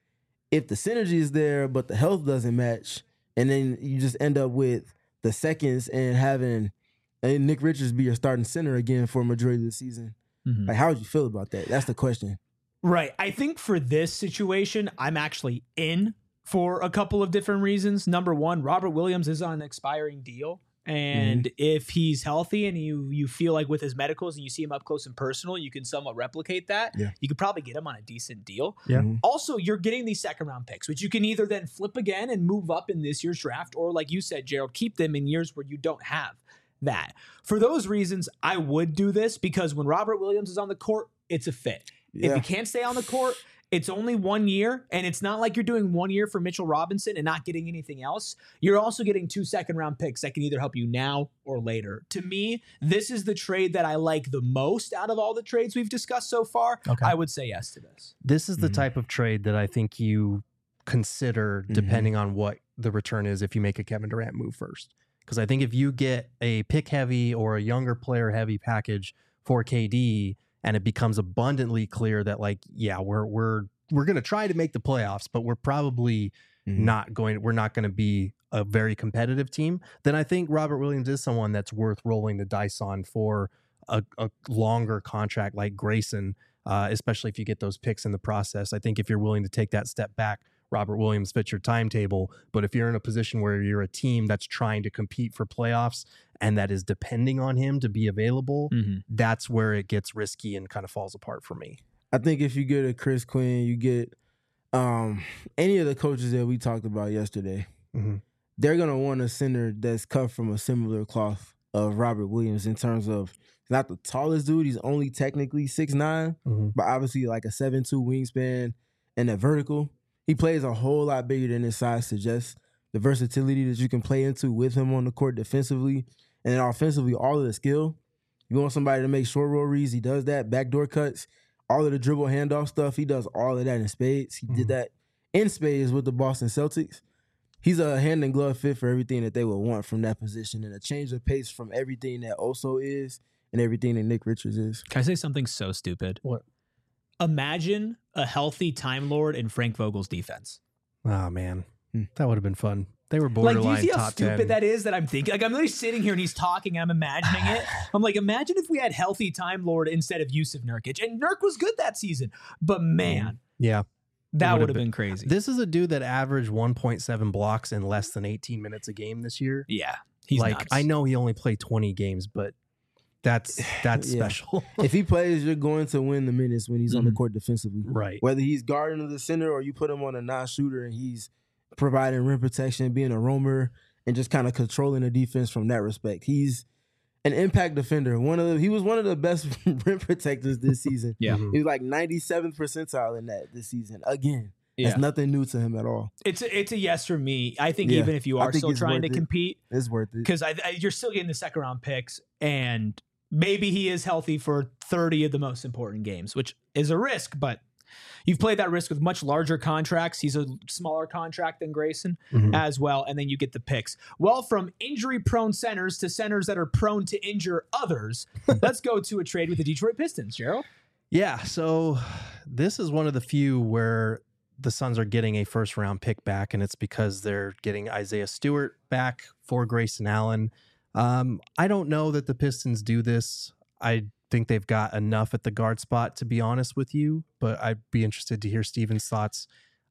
if the synergy is there, but the health doesn't match, and then you just end up with the seconds and having and Nick Richards be your starting center again for a majority of the season, Mhm. like how would you feel about that? That's the question. Right. I think for this situation, I'm actually in for a couple of different reasons. Number one, Robert Williams is on an expiring deal. And if he's healthy and you you feel like with his medicals and you see him up close and personal, you can somewhat replicate that. Yeah. You could probably get him on a decent deal. Yeah. Mhm. Also, you're getting these second round picks, which you can either then flip again and move up in this year's draft, or like you said, Gerald, keep them in years where you don't have that. For those reasons, I would do this because when Robert Williams is on the court, it's a fit. If Yeah. he can't stay on the court, it's only one year, and it's not like you're doing one year for Mitchell Robinson and not getting anything else. You're also getting two second round picks that can either help you now or later. To me, this is the trade that I like the most out of all the trades we've discussed so far. Okay. I would say yes to this. This is the Mhm. type of trade that I think you consider Mhm. depending on what the return is if you make a Kevin Durant move first. Because I think if you get a pick heavy or a younger player heavy package for K D and it becomes abundantly clear that like, yeah, we're we're we're going to try to make the playoffs, but we're probably Mhm. not going we're not going to be a very competitive team, then I think Robert Williams is someone that's worth rolling the dice on for a, a longer contract like Grayson, uh, especially if you get those picks in the process. I think if you're willing to take that step back, Robert Williams fits your timetable. But if you're in a position where you're a team that's trying to compete for playoffs and that is depending on him to be available, Mm-hmm. that's where it gets risky and kind of falls apart for me. I think if you get a Chris Quinn, you get um, any of the coaches that we talked about yesterday, Mhm. they're going to want a center that's cut from a similar cloth of Robert Williams in terms of he's not the tallest dude. He's only technically six nine, Mhm. but obviously like a seven two wingspan and a vertical. He plays a whole lot bigger than his size suggests. The versatility that you can play into with him on the court defensively and then offensively, all of the skill. You want somebody to make short roll reads, he does that. Backdoor cuts, all of the dribble handoff stuff, he does all of that in spades. He Mhm. did that in spades with the Boston Celtics. He's a hand and glove fit for everything that they would want from that position and a change of pace from everything that Oso is and everything that Nick Richards is. Can I say something so stupid? What? Imagine a healthy Time Lord in Frank Vogel's defense. Oh, man. Hmm. That would have been fun. They were Like, borderline do you see how top stupid ten. that is that I'm thinking? Like, I'm literally sitting here and he's talking and I'm imagining it. I'm like, imagine if we had healthy Time Lord instead of Yusuf Nurkic. And Nurk was good that season. But man, Yeah. that would've would have been- been crazy. This is a dude that averaged one point seven blocks in less than eighteen minutes a game this year. yeah. He's like nuts. I know he only played twenty games, but that's that's Yeah. special. If he plays, you're going to win the minutes when he's on the Mhm. court defensively. Right. Whether he's guarding the center or you put him on a non-shooter and he's providing rim protection, being a roamer, and just kind of controlling the defense from that respect. He's an impact defender. One of the, he was one of the best rim protectors this season. Yeah. Mhm. He was like ninety-seventh percentile in that this season. Again, Yeah. that's nothing new to him at all. It's a, it's a yes for me. I think Yeah. even if you I are think still it's trying to worth it. compete, It's worth it. because I, I, you're still getting the second round picks, and maybe he is healthy for thirty of the most important games, which is a risk, but you've played that risk with much larger contracts. He's a smaller contract than Grayson Mhm. as well, and then you get the picks. Well, from injury-prone centers to centers that are prone to injure others, let's go to a trade with the Detroit Pistons, Gerald. Yeah. So this is one of the few where the Suns are getting a first round pick back, and it's because they're getting Isaiah Stewart back for Grayson Allen. Um, I don't know that the Pistons do this. I think they've got enough at the guard spot, to be honest with you, but I'd be interested to hear Steven's thoughts.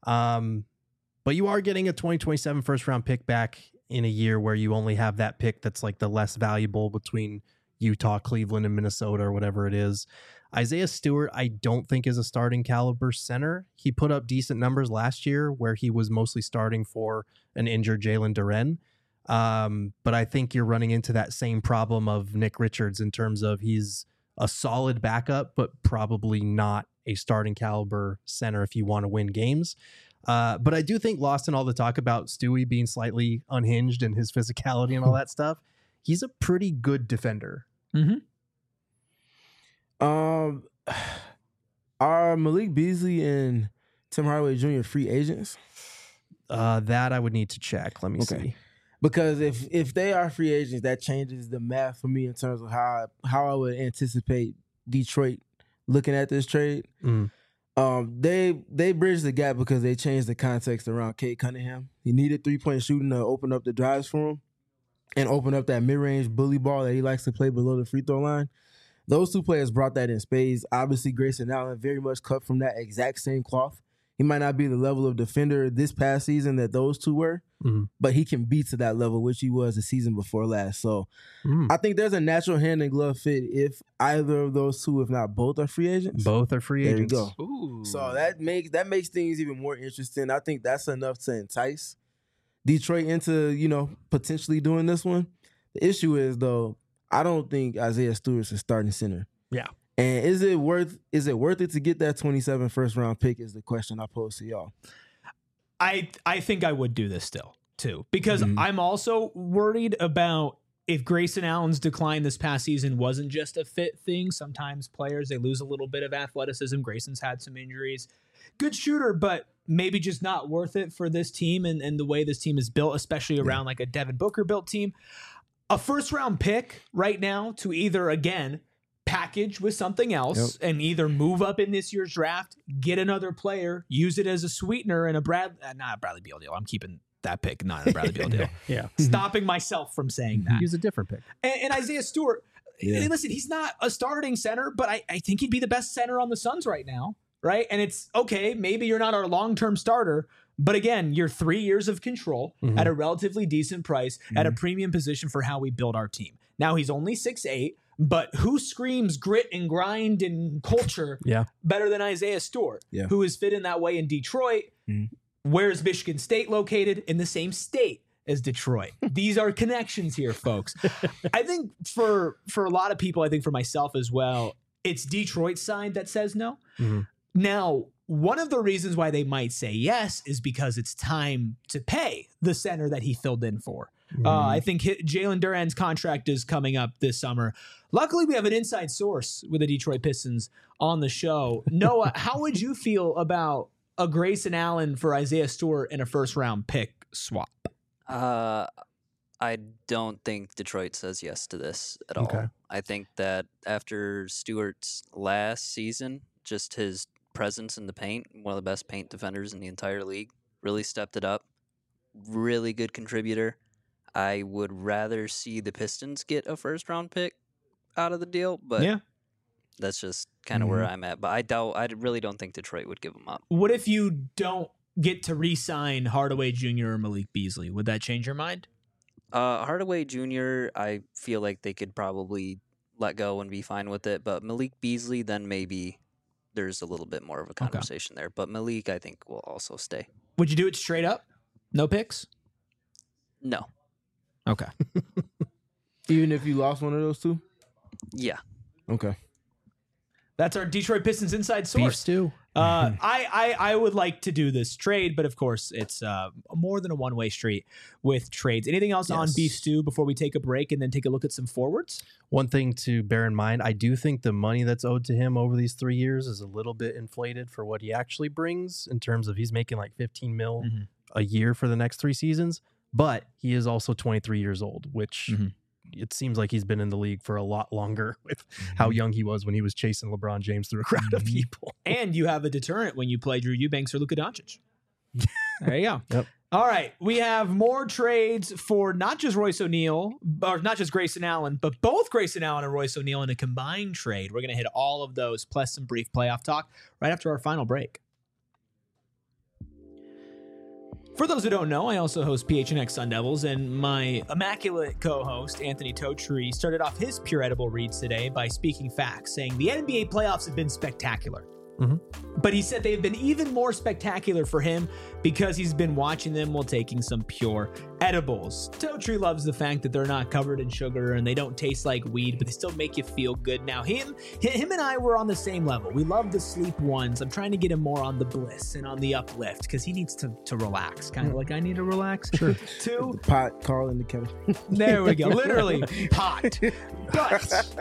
Um, but you are getting a twenty twenty-seven first round pick back in a year where you only have that pick that's like the less valuable between Utah, Cleveland, and Minnesota, or whatever it is. Isaiah Stewart, I don't think is a starting caliber center. He put up decent numbers last year where he was mostly starting for an injured Jalen Duren. Um, but I think you're running into that same problem of Nick Richards in terms of he's a solid backup, but probably not a starting caliber center if you want to win games. Uh, but I do think, lost in all the talk about Stewie being slightly unhinged and his physicality and all that stuff, he's a pretty good defender. Mm-hmm. Um, are Malik Beasley and Tim Hardaway Junior free agents? Uh, that I would need to check. Let me Okay. see. Because if if they are free agents, that changes the math for me in terms of how I, how I would anticipate Detroit looking at this trade. Mm. Um, they they bridged the gap because they changed the context around Cade Cunningham. He needed three point shooting to open up the drives for him and open up that mid range bully ball that he likes to play below the free throw line. Those two players brought that in spades. Obviously, Grayson Allen very much cut from that exact same cloth. He might not be the level of defender this past season that those two were, mm-hmm. but he can be to that level, which he was the season before last. So mm. I think there's a natural hand and glove fit if either of those two, if not both, are free agents. Both are free There agents. you go. Ooh. So that makes that makes things even more interesting. I think that's enough to entice Detroit into, you know, potentially doing this one. The issue is, though, I don't think Isaiah Stewart's a starting center. Yeah. And is it worth is it worth it to get that twenty-seven first round pick is the question I pose to y'all. I I think I would do this still too, because Mhm. I'm also worried about if Grayson Allen's decline this past season wasn't just a fit thing. Sometimes players, they lose a little bit of athleticism. Grayson's had some injuries. Good shooter, but maybe just not worth it for this team and, and the way this team is built, especially around like a Devin Booker built team. A first round pick right now to either, again, package with something else Yep. and either move up in this year's draft, get another player, use it as a sweetener and a Brad, uh, not a Bradley Beal deal. I'm keeping that pick, not a Bradley Beal deal. Yeah. Stopping myself from saying that. Use a different pick. And, and Isaiah Stewart, Yeah. listen, he's not a starting center, but I, I think he'd be the best center on the Suns right now, right? And it's okay, maybe you're not our long-term starter, but again, you're three years of control Mhm. at a relatively decent price, at a premium position for how we build our team. Now he's only six eight, but who screams grit and grind and culture Yeah. better than Isaiah Stewart, Yeah. who is fit in that way in Detroit? Mhm. Where is Michigan State located? In the same state as Detroit. These are connections here, folks. I think for for a lot of people, I think for myself as well, it's Detroit's side that says no. Mhm. Now, one of the reasons why they might say yes is because it's time to pay the center that he filled in for. Uh, I think hi- Jalen Duran's contract is coming up this summer. Luckily, we have an inside source with the Detroit Pistons on the show. Noah, how would you feel about a Grayson Allen for Isaiah Stewart and a first round pick swap? Uh, I don't think Detroit says yes to this at all. Okay. I think that after Stewart's last season, just his presence in the paint, one of the best paint defenders in the entire league, really stepped it up. Really good contributor. I would rather see the Pistons get a first round pick out of the deal, but Yeah. that's just kind of where I'm at. But I doubt, I really don't think Detroit would give him up. What if you don't get to re-sign Hardaway Junior or Malik Beasley? Would that change your mind? Uh, Hardaway Junior, I feel like they could probably let go and be fine with it. But Malik Beasley, then maybe there's a little bit more of a conversation there. But Malik, I think, will also stay. Would you do it straight up? No picks? No. Okay. Even if you lost one of those two? Yeah. Okay. That's our Detroit Pistons inside Beef source. stew. Uh, I, I I would like to do this trade, but of course it's uh, more than a one-way street with trades. Anything else on Yes. Beef Stew before we take a break and then take a look at some forwards? One thing to bear in mind, I do think the money that's owed to him over these three years is a little bit inflated for what he actually brings in terms of he's making like fifteen mil Mhm. a year for the next three seasons. But he is also twenty-three years old, which Mhm. it seems like he's been in the league for a lot longer with how young he was when he was chasing LeBron James through a crowd of Mhm. people. And you have a deterrent when you play Drew Eubanks or Luka Doncic. There you go. Yep. All right. We have more trades for not just Royce O'Neal, or not just Grayson Allen, but both Grayson Allen and Royce O'Neal in a combined trade. We're going to hit all of those, plus some brief playoff talk right after our final break. For those who don't know, I also host P H N X Sun Devils, and my immaculate co-host, Anthony Totri, started off his Pure Edible reads today by speaking facts, saying the N B A playoffs have been spectacular. Mhm. But he said they've been even more spectacular for him because he's been watching them while taking some pure edibles. Totri loves the fact that they're not covered in sugar and they don't taste like weed, but they still make you feel good. Now, him, him and I were on the same level. We love the sleep ones. I'm trying to get him more on the bliss and on the uplift because he needs to, to relax, kind of like I need to relax. Sure. Two, The pot calling the kettle. there we go. Literally, pot. But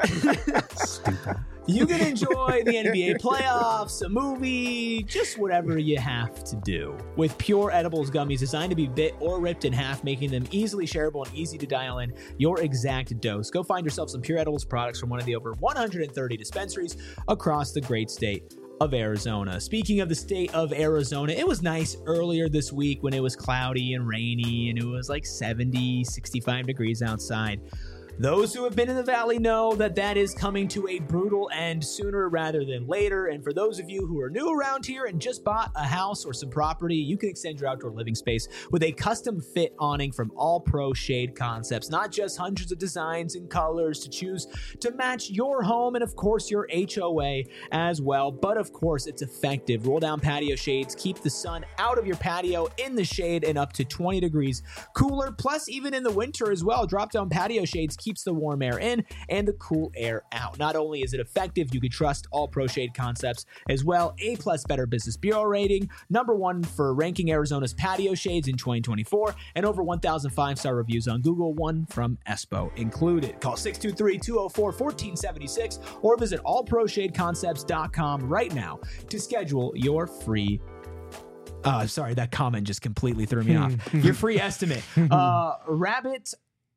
you can enjoy the N B A playoffs, a movie, just whatever you have to do. With Pure Edibles gummies designed to be bit or ripped in half, making them easily shareable and easy to dial in your exact dose. Go find yourself some Pure Edibles products from one of the over one hundred thirty dispensaries across the great state of Arizona. Speaking of the state of Arizona, it was nice earlier this week when it was cloudy and rainy and it was like seventy, sixty-five degrees outside. Those who have been in the valley know that that is coming to a brutal end sooner rather than later. And for those of you who are new around here and just bought a house or some property, you can extend your outdoor living space with a custom fit awning from All Pro Shade Concepts. Not just hundreds of designs and colors to choose to match your home and of course your H O A as well. But of course it's effective. Roll down patio shades, keep the sun out of your patio in the shade and up to twenty degrees cooler. Plus even in the winter as well, drop down patio shades keep keeps the warm air in and the cool air out. Not only is it effective, you can trust All Pro Shade Concepts as well. A plus Better Business Bureau rating, number one for ranking Arizona's patio shades in twenty twenty-four, and over one thousand five-star reviews on Google, one from Espo included. Call six two three, two oh four, one four seven six or visit all pro shade concepts dot com right now to schedule your free Uh, sorry, that comment just completely threw me off. Your free estimate. Uh, Rabbit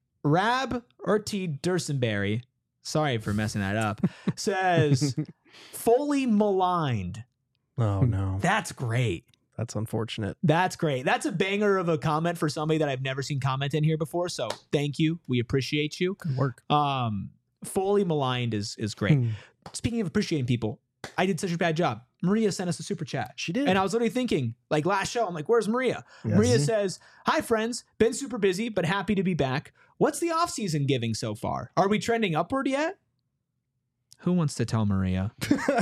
Rab Urti Dursenberry, sorry for messing that up, says, fully maligned. Oh, no. That's great. That's unfortunate. That's great. That's a banger of a comment for somebody that I've never seen comment in here before. So thank you. We appreciate you. Good work. Um, fully maligned is is great. Speaking of appreciating people, I did such a bad job. Maria sent us a super chat. She did. And I was literally thinking, like last show, I'm like, where's Maria? Yes. Maria says, hi, friends. Been super busy, but happy to be back. What's the off-season giving so far? Are we trending upward yet? Who wants to tell Maria?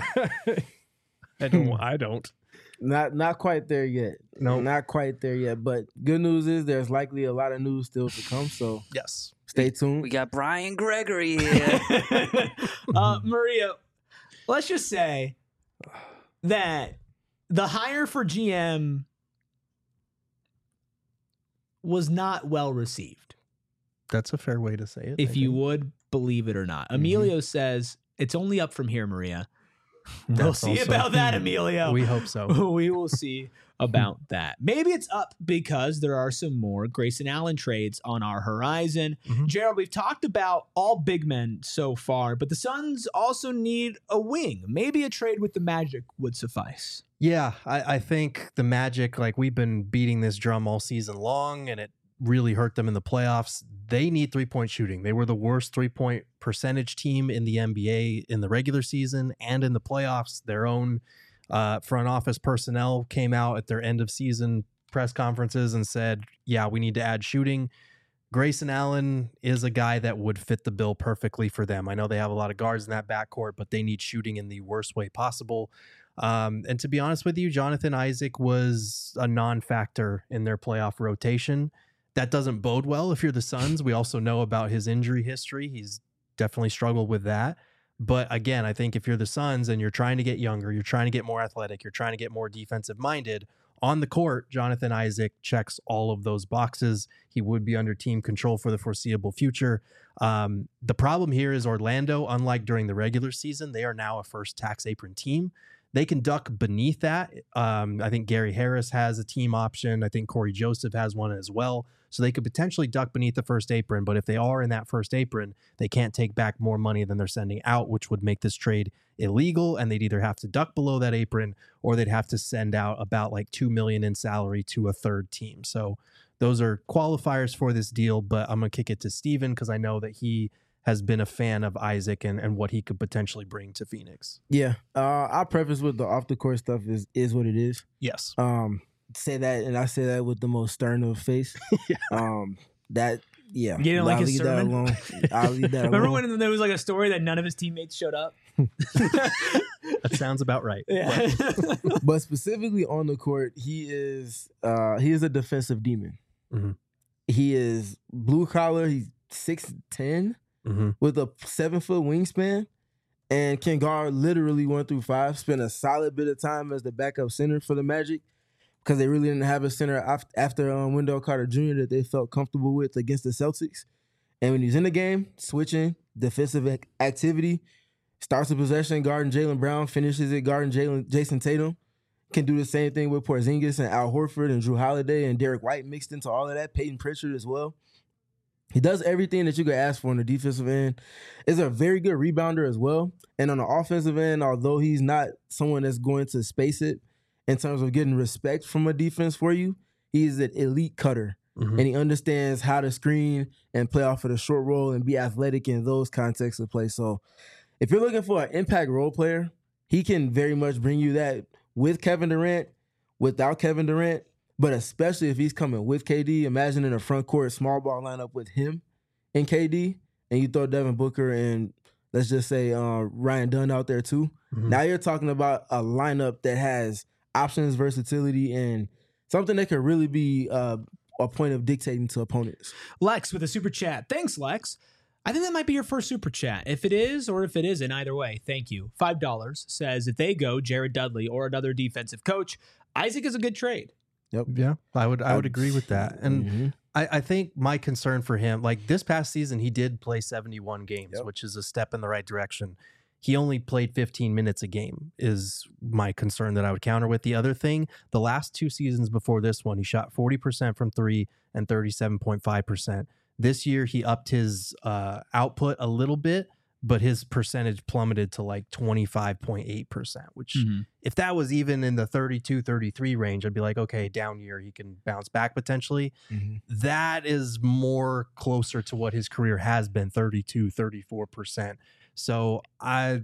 I don't. I don't. Not not quite there yet. No. Not quite there yet. But good news is there's likely a lot of news still to come. So Yes. stay tuned. We got Brian Gregory here. uh, Maria, let's just say that the hire for G M was not well received, That's a fair way to say it. if I you think. would believe it or not. Mhm. Emilio says it's only up from here, Maria. We'll That's see also- about that, Emilio. We hope so. We will see about that. Maybe it's up because there are some more Grayson Allen trades on our horizon. Mhm. Gerald, we've talked about all big men so far, but the Suns also need a wing. Maybe a trade with the Magic would suffice. Yeah, I, I think the Magic, like we've been beating this drum all season long, and it really hurt them in the playoffs. They need three-point shooting. They were the worst three-point percentage team in the N B A in the regular season and in the playoffs. Their own uh, front office personnel came out at their end of season press conferences and said, yeah, we need to add shooting. Grayson Allen is a guy that would fit the bill perfectly for them. I know they have a lot of guards in that backcourt, but they need shooting in the worst way possible. Um, and to be honest with you, Jonathan Isaac was a non-factor in their playoff rotation. That doesn't bode well if you're the Suns. We also know about his injury history. He's definitely struggled with that. But again, I think if you're the Suns and you're trying to get younger, you're trying to get more athletic, you're trying to get more defensive minded, on the court, Jonathan Isaac checks all of those boxes. He would be under team control for the foreseeable future. Um, the problem here is Orlando, unlike during the regular season, they are now a first tax apron team. They can duck beneath that. Um, I think Gary Harris has a team option. I think Corey Joseph has one as well. So they could potentially duck beneath the first apron. But if they are in that first apron, they can't take back more money than they're sending out, which would make this trade illegal. And they'd either have to duck below that apron or they'd have to send out about like two million dollars in salary to a third team. So those are qualifiers for this deal. But I'm going to kick it to Steven because I know that he has been a fan of Isaac and, and what he could potentially bring to Phoenix. Yeah. Uh, I'll preface with the off the court stuff is is what it is. Yes. Um, say that, and I say that with the most stern of face. Yeah. Um, that Yeah, You didn't like I'll his leave sermon? that alone. I'll leave that Remember alone. when there was like a story that none of his teammates showed up? That sounds about right. Yeah. But specifically on the court, he is uh, he is a defensive demon. Mhm. He is blue collar. He's six ten Mm-hmm. with a seven foot wingspan, and can guard literally one through five. Spent a solid bit of time as the backup center for the Magic because they really didn't have a center af- after um, Wendell Carter Junior that they felt comfortable with against the Celtics. And when he's in the game, switching defensive ac- activity, starts a possession guarding Jaylen Brown, finishes it guarding Jalen Jason Tatum. Can do the same thing with Porzingis and Al Horford and Drew Holiday and Derek White mixed into all of that. Peyton Pritchard as well. He does everything that you could ask for on the defensive end. Is a very good rebounder as well. And on the offensive end, although he's not someone that's going to space it in terms of getting respect from a defense for you, he's an elite cutter. Mm-hmm. And he understands how to screen and play off of the short roll and be athletic in those contexts of play. So if you're looking for an impact role player, he can very much bring you that with Kevin Durant, without Kevin Durant, but especially if he's coming with K D. Imagine in a front court small ball lineup with him and K D, and you throw Devin Booker and let's just say uh, Ryan Dunn out there too. Mhm. Now you're talking about a lineup that has options, versatility, and something that could really be uh, a point of dictating to opponents. Lex with a super chat. Thanks, Lex. I think that might be your first super chat. If it is or if it isn't, either way, thank you. five dollars says, if they go Jared Dudley or another defensive coach, Isaac is a good trade. Yeah, I would I would agree with that. And Mhm. I, I think my concern for him, like this past season, he did play seventy-one games, Yep. which is a step in the right direction. He only played fifteen minutes a game is my concern that I would counter with. The other thing, the last two seasons before this one, he shot forty percent from three and thirty-seven point five percent. This year, he upped his uh, output a little bit, but his percentage plummeted to like twenty-five point eight percent, which Mm-hmm. if that was even in the thirty-two, thirty-three range, I'd be like, okay, down year, he can bounce back potentially. Mhm. That is more closer to what his career has been, thirty-two, thirty-four percent. So I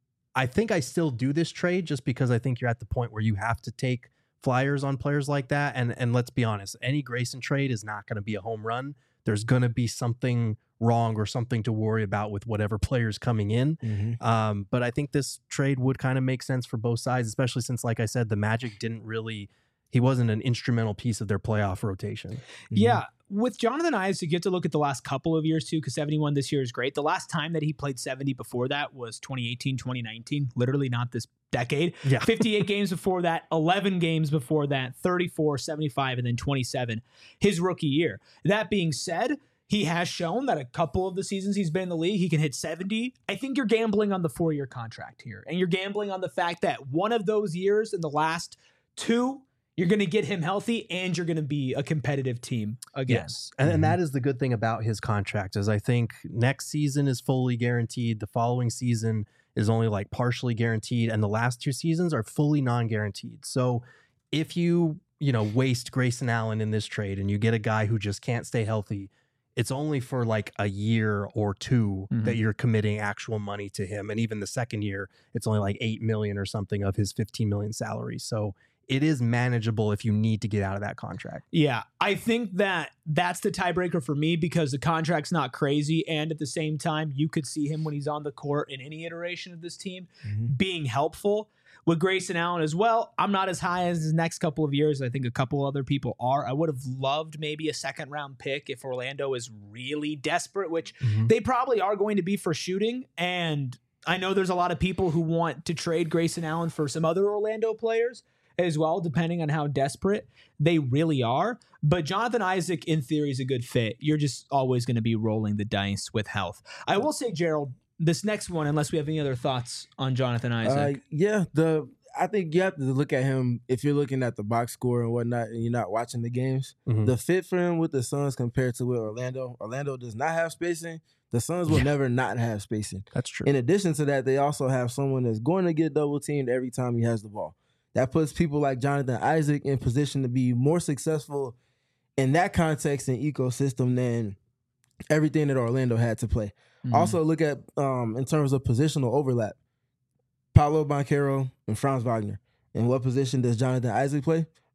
I think I still do this trade just because I think you're at the point where you have to take flyers on players like that. And and let's be honest, any Grayson trade is not going to be a home run. There's going to be something wrong or something to worry about with whatever players coming in. Mhm. Um, but I think this trade would kind of make sense for both sides, especially since, like I said, the Magic didn't really, he wasn't an instrumental piece of their playoff rotation. Yeah. With Jonathan Isaac, you have to look at the last couple of years too, because seventy-one this year is great. The last time that he played seventy before that was twenty eighteen, twenty nineteen, literally not this decade. Yeah. fifty-eight games before that, eleven games before that, thirty-four, seventy-five, and then twenty-seven his rookie year. That being said, he has shown that a couple of the seasons he's been in the league, he can hit seventy. I think you're gambling on the four-year contract here, and you're gambling on the fact that one of those years in the last two, you're going to get him healthy and you're going to be a competitive team again. Yes. And, and that is the good thing about his contract is I think next season is fully guaranteed. The following season is only like partially guaranteed. And the last two seasons are fully non-guaranteed. So if you, you know, waste Grayson Allen in this trade and you get a guy who just can't stay healthy, it's only for like a year or two Mhm. that you're committing actual money to him. And even the second year, it's only like eight million or something of his fifteen million salary. So it is manageable if you need to get out of that contract. Yeah, I think that that's the tiebreaker for me because the contract's not crazy. And at the same time, you could see him when he's on the court in any iteration of this team Mhm. being helpful. With Grayson Allen as well, I'm not as high as his next couple of years. I think a couple other people are. I would have loved maybe a second round pick if Orlando is really desperate, which they probably are going to be for shooting. And I know there's a lot of people who want to trade Grayson Allen for some other Orlando players as well, depending on how desperate they really are. But Jonathan Isaac, in theory, is a good fit. You're just always going to be rolling the dice with health. I will say, Gerald, this next one, unless we have any other thoughts on Jonathan Isaac. Uh, yeah, the I think you have to look at him if you're looking at the box score and whatnot, and you're not watching the games. Mhm. The fit for him with the Suns compared to with Orlando. Orlando does not have spacing. The Suns will Yeah. never not have spacing. That's true. In addition to that, they also have someone that's going to get double teamed every time he has the ball. That puts people like Jonathan Isaac in position to be more successful in that context and ecosystem than everything that Orlando had to play. Mhm. Also, look at um, in terms of positional overlap. Paolo Banchero and Franz Wagner. In what position does Jonathan Isaac play?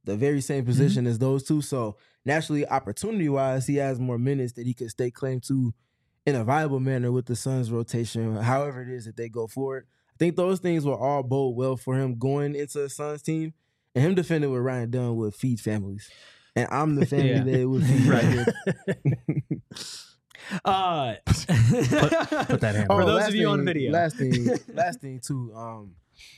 the very same position mm-hmm. as those two. So naturally, opportunity-wise, he has more minutes that he could stake claim to in a viable manner with the Suns rotation, however it is that they go forward. I think those things will all bode well for him going into a Suns team, and him defending with Ryan Dunn would feed families. And I'm the family yeah. that it would feed right here. uh, put, put that hand. For oh, those of you thing, on video. Last thing, last thing too. Um,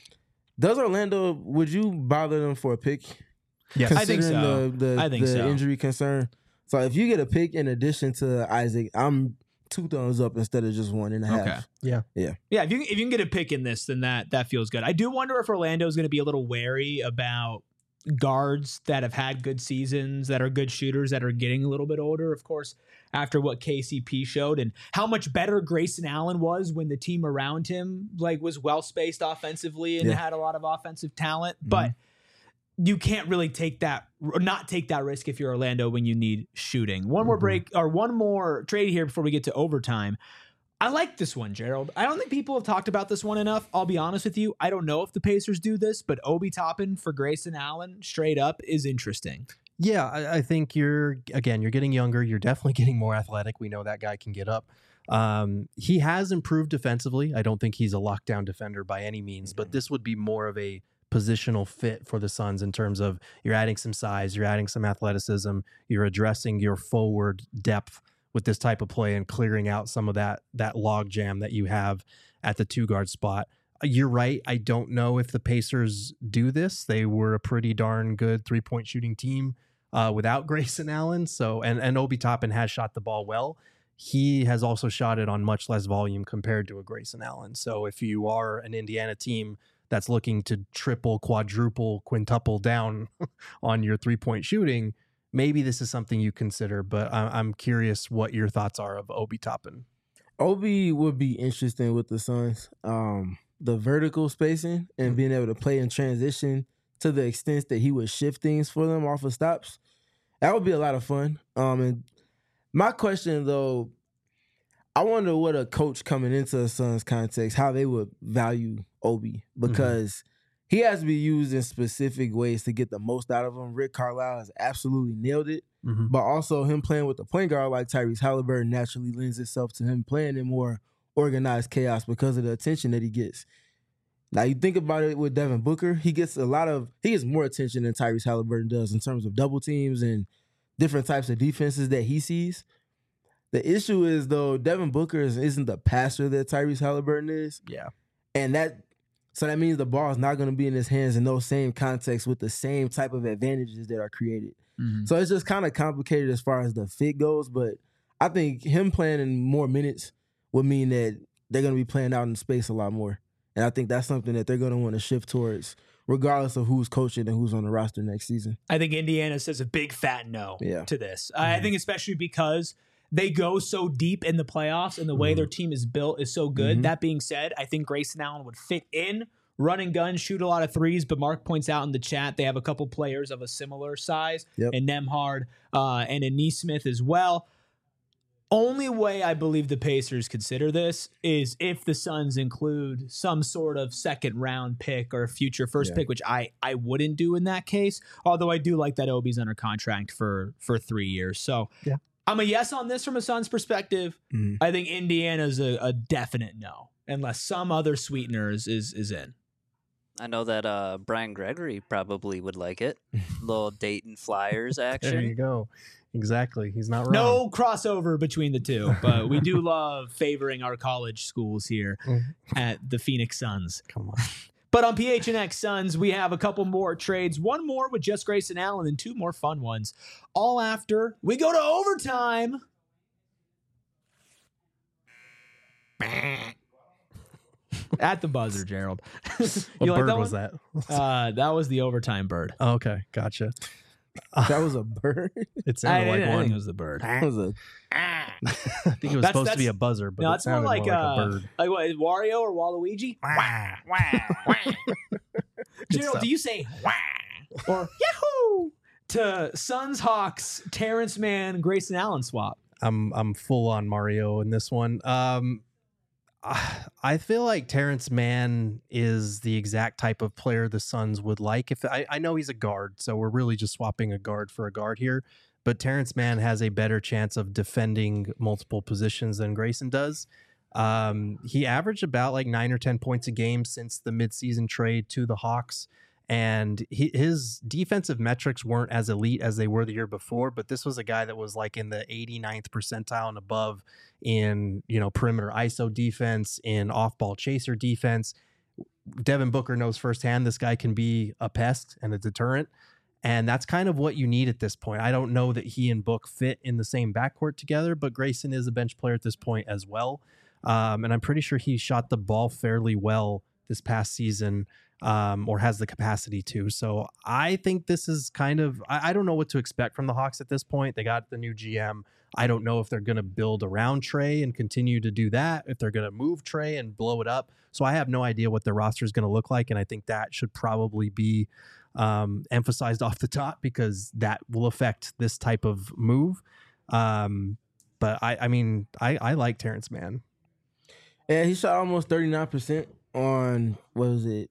does Orlando, would you bother them for a pick? Yes, I think so. The, the, I think the so. injury concern. So if you get a pick in addition to Isaac, I'm two thumbs up instead of just one and a half. Okay. Yeah. Yeah. Yeah. If you if you can get a pick in this, then that that feels good. I do wonder if Orlando is going to be a little wary about guards that have had good seasons, that are good shooters, that are getting a little bit older, of course, after what K C P showed and how much better Grayson Allen was when the team around him like was well spaced offensively and yeah. had a lot of offensive talent. Mm-hmm. But you can't really take that, not take that risk if you're Orlando when you need shooting. One more Mm-hmm. break or one more trade here before we get to overtime. I like this one, Gerald. I don't think people have talked about this one enough. I'll be honest with you. I don't know if the Pacers do this, but Obi Toppin for Grayson Allen straight up is interesting. Yeah, I, I think you're, again, you're getting younger. You're definitely getting more athletic. We know that guy can get up. Um, he has improved defensively. I don't think he's a lockdown defender by any means, but this would be more of a positional fit for the Suns in terms of you're adding some size, you're adding some athleticism, you're addressing your forward depth with this type of play and clearing out some of that that log jam that you have at the two guard spot. You're right. I don't know if the Pacers do this. They were a pretty darn good three point shooting team uh, without Grayson Allen. So and and Obi Toppin has shot the ball well. He has also shot it on much less volume compared to a Grayson Allen. So if you are an Indiana team that's looking to triple, quadruple, quintuple down on your three-point shooting, maybe this is something you consider, but I'm curious what your thoughts are of Obi Toppin. Obi would be interesting with the Suns. Um, the vertical spacing and mm-hmm. being able to play in transition to the extent that he would shift things for them off of stops, that would be a lot of fun. Um, and my question, though, I wonder what a coach coming into a Suns context, how they would value Obi, because mm-hmm. he has to be used in specific ways to get the most out of him. Rick Carlisle has absolutely nailed it, mm-hmm. but also him playing with a point guard like Tyrese Halliburton naturally lends itself to him playing in more organized chaos because of the attention that he gets. Now, you think about it with Devin Booker, he gets a lot of, he gets more attention than Tyrese Halliburton does in terms of double teams and different types of defenses that he sees. The issue is, though, Devin Booker is, isn't the passer that Tyrese Halliburton is. Yeah. And that, so that means the ball is not going to be in his hands in those same contexts with the same type of advantages that are created. Mm-hmm. So it's just kind of complicated as far as the fit goes, but I think him playing in more minutes would mean that they're going to be playing out in space a lot more. And I think that's something that they're going to want to shift towards, regardless of who's coaching and who's on the roster next season. I think Indiana says a big fat no yeah. to this. Mm-hmm. I think especially because they go so deep in the playoffs and the way mm-hmm. their team is built is so good. Mm-hmm. That being said, I think Grayson Allen would fit in, run and gun, shoot a lot of threes, but Mark points out in the chat they have a couple players of a similar size, yep. and Nembhard uh, and a Nesmith as well. Only way I believe the Pacers consider this is if the Suns include some sort of second round pick or future first yeah. pick, which I, I wouldn't do in that case. Although I do like that Obi's under contract for, for three years. So yeah. I'm a yes on this from a Suns perspective. Mm. I think Indiana's a, a definite no, unless some other sweetener is, is, is in. I know that uh, Brian Gregory probably would like it. Little Dayton Flyers action. There you go. Exactly. He's not wrong. No crossover between the two, but we do love favoring our college schools here at the Phoenix Suns. Come on. But on P H N X Suns, we have a couple more trades. One more with just Grayson Allen and two more fun ones. All after we go to overtime. At the buzzer, Gerald. What you like bird that was one? that? Uh, that was the overtime bird. Oh, okay. Gotcha. That was a bird? It sounded I, like I one. think it was the bird. That was a... I think it was That's- supposed to be that's- a buzzer, but No, it it's more sounded like, more like uh, a bird. like what, is Wario or Waluigi? Gerald, stuff. do you say wah or yahoo to Suns Hawks Terrence Mann Grayson Allen swap? I'm I'm full on Mario in this one. Um, I feel like Terrence Mann is the exact type of player the Suns would like. If I, I know he's a guard, so we're really just swapping a guard for a guard here. But Terrence Mann has a better chance of defending multiple positions than Grayson does. Um, he averaged about like nine or ten points a game since the midseason trade to the Hawks. And he, his defensive metrics weren't as elite as they were the year before, but this was a guy that was like in the eighty-ninth percentile and above in, you know, perimeter I S O defense, in off-ball chaser defense. Devin Booker knows firsthand this guy can be a pest and a deterrent, and that's kind of what you need at this point. I don't know that he and Book fit in the same backcourt together, but Grayson is a bench player at this point as well, um, and I'm pretty sure he shot the ball fairly well this past season. Um, or has the capacity to. So I think this is kind of, I, I don't know what to expect from the Hawks at this point. They got the new G M. I don't know if they're going to build around Trey and continue to do that, if they're going to move Trey and blow it up. So I have no idea what their roster is going to look like. And I think that should probably be um, emphasized off the top, because that will affect this type of move. Um, but I, I mean, I, I like Terrence Mann. Yeah, he shot almost thirty-nine percent on, what was it?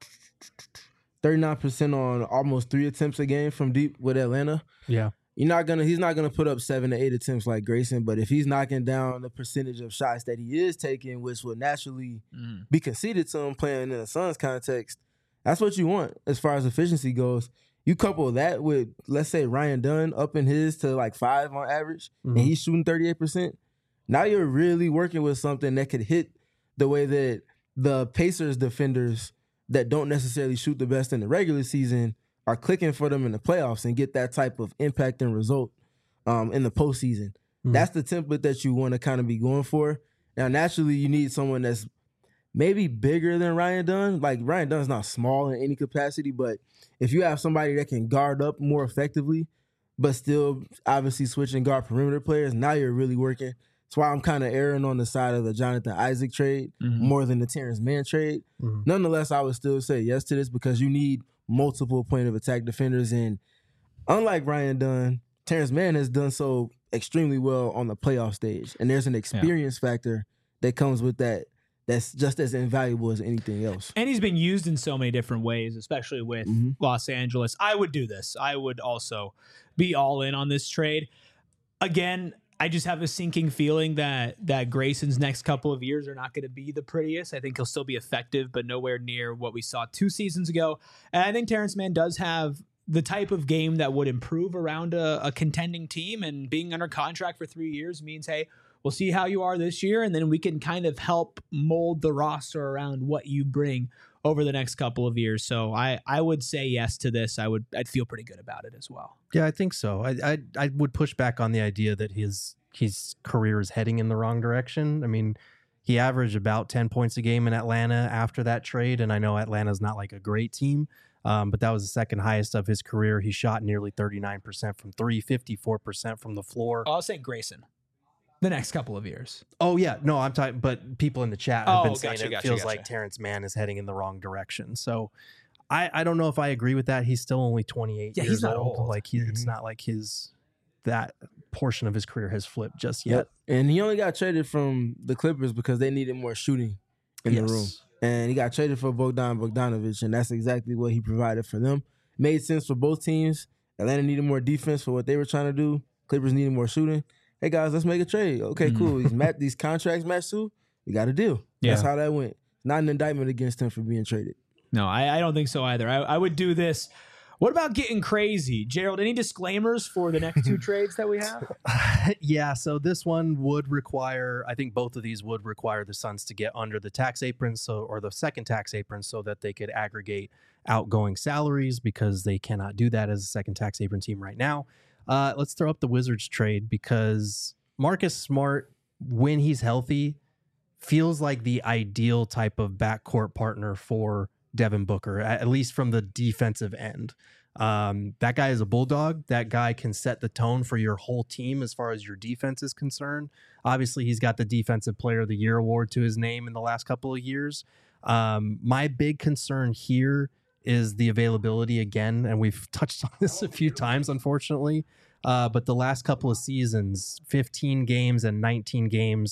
thirty-nine percent on almost three attempts a game from deep with Atlanta. Yeah. You're not gonna he's not gonna put up seven to eight attempts like Grayson, but if he's knocking down the percentage of shots that he is taking, which will naturally mm. be conceded to him playing in a Suns context, that's what you want as far as efficiency goes. You couple that with, let's say, Ryan Dunn upping his to like five on average, mm-hmm. and he's shooting thirty-eight percent. Now you're really working with something that could hit the way that the Pacers defenders that don't necessarily shoot the best in the regular season are clicking for them in the playoffs and get that type of impact and result um, in the postseason. Mm-hmm. That's the template that you want to kind of be going for. Now, naturally, you need someone that's maybe bigger than Ryan Dunn. Like, Ryan Dunn's not small in any capacity, but if you have somebody that can guard up more effectively, but still obviously switching guard perimeter players, now you're really working. That's why I'm kind of erring on the side of the Jonathan Isaac trade mm-hmm. more than the Terrence Mann trade. Mm-hmm. Nonetheless, I would still say yes to this, because you need multiple point of attack defenders. And unlike Ryan Dunn, Terrence Mann has done so extremely well on the playoff stage. And there's an experience yeah. factor that comes with that that's just as invaluable as anything else. And he's been used in so many different ways, especially with mm-hmm. Los Angeles. I would do this. I would also be all in on this trade. Again, I just have a sinking feeling that that Grayson's next couple of years are not going to be the prettiest. I think he'll still be effective, but nowhere near what we saw two seasons ago. And I think Terrence Mann does have the type of game that would improve around a, a contending team, and being under contract for three years means, hey, we'll see how you are this year, and then we can kind of help mold the roster around what you bring over the next couple of years. So I, I would say yes to this. I would, I'd feel pretty good about it as well. Yeah, I think so. I, I, I would push back on the idea that his, his career is heading in the wrong direction. I mean, he averaged about ten points a game in Atlanta after that trade. And I know Atlanta's not like a great team, um, but that was the second highest of his career. He shot nearly thirty-nine percent from three, fifty-four percent from the floor. Oh, I was saying Grayson. The next couple of years. Oh, yeah. No, I'm talking, but people in the chat have oh, been gotcha, saying it gotcha, feels gotcha. like Terrence Mann is heading in the wrong direction. So I, I don't know if I agree with that. He's still only twenty-eight yeah, years he's not old. old. Like he, mm-hmm. It's not like his, that portion of his career has flipped just yet. Yep. And he only got traded from the Clippers because they needed more shooting in yes. the room. And he got traded for Bogdan Bogdanovic, and that's exactly what he provided for them. Made sense for both teams. Atlanta needed more defense for what they were trying to do. Clippers needed more shooting. Hey, guys, let's make a trade. Okay, mm. cool. These, mat- these contracts match too. We got a deal. Yeah. That's how that went. Not an indictment against him for being traded. No, I, I don't think so either. I, I would do this. What about getting crazy? Gerald, any disclaimers for the next two trades that we have? Yeah, so this one would require, I think both of these would require the Suns to get under the tax apron, so or the second tax apron, so that they could aggregate outgoing salaries, because they cannot do that as a second tax apron team right now. Uh, let's throw up the Wizards trade, because Marcus Smart, when he's healthy, feels like the ideal type of backcourt partner for Devin Booker, at least from the defensive end. Um, that guy is a bulldog. That guy can set the tone for your whole team as far as your defense is concerned. Obviously, he's got the Defensive Player of the Year award to his name in the last couple of years. Um, my big concern here is the availability again, and we've touched on this a few times, unfortunately. Uh, but the last couple of seasons, fifteen games and nineteen games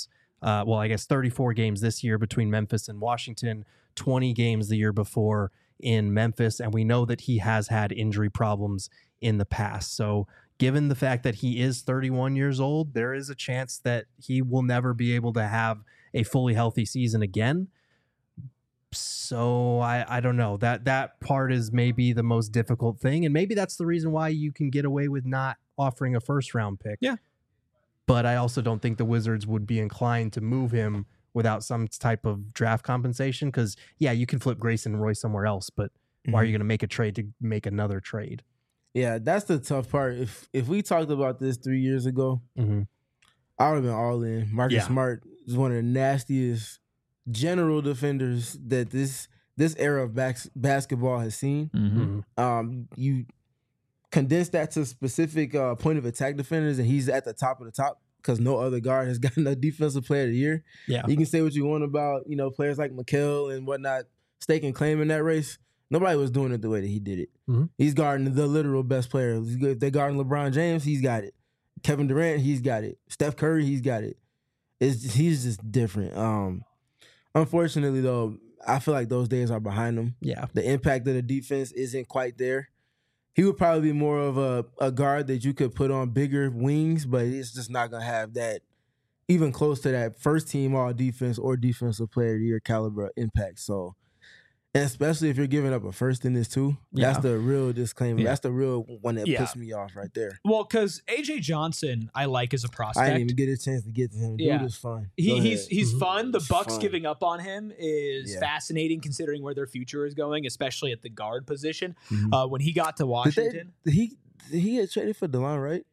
Uh, well, I guess thirty-four games this year between Memphis and Washington, twenty games the year before in Memphis. And we know that he has had injury problems in the past. So given the fact that he is thirty-one years old, there is a chance that he will never be able to have a fully healthy season again. So I, I don't know. That that part is maybe the most difficult thing. And maybe that's the reason why you can get away with not offering a first round pick. Yeah. But I also don't think the Wizards would be inclined to move him without some type of draft compensation. Because, yeah, you can flip Grayson Roy somewhere else, but mm-hmm. why are you going to make a trade to make another trade? Yeah, that's the tough part. If if we talked about this three years ago, mm-hmm. I would have been all in. Marcus yeah. Smart is one of the nastiest general defenders that this this era of bas- basketball has seen. Mm-hmm. Um, you condense that to specific uh, point of attack defenders, and he's at the top of the top because no other guard has gotten a defensive player of the year. Yeah, you can say what you want about you know players like Mikal and whatnot staking claim in that race. Nobody was doing it the way that he did it. Mm-hmm. He's guarding the literal best player. If they're guarding LeBron James, he's got it. Kevin Durant, he's got it. Steph Curry, he's got it. It's he's just different. Um, unfortunately, though, I feel like those days are behind him. Yeah, the impact of the defense isn't quite there. He would probably be more of a, a guard that you could put on bigger wings, but it's just not gonna have that even close to that first team all defense or defensive player of the year caliber impact. So. And especially if you're giving up a first in this too. Yeah. That's the real disclaimer. Yeah. That's the real one that yeah. pissed me off right there. Well, because A J Johnson, I like as a prospect. I didn't even get a chance to get to him. Yeah. Dude is fun. He, he's he's mm-hmm. fun. The Bucks fun. giving up on him is yeah. fascinating considering where their future is going, especially at the guard position. Mm-hmm. Uh, when he got to Washington. Did they, did he did he get traded for DeLon, right?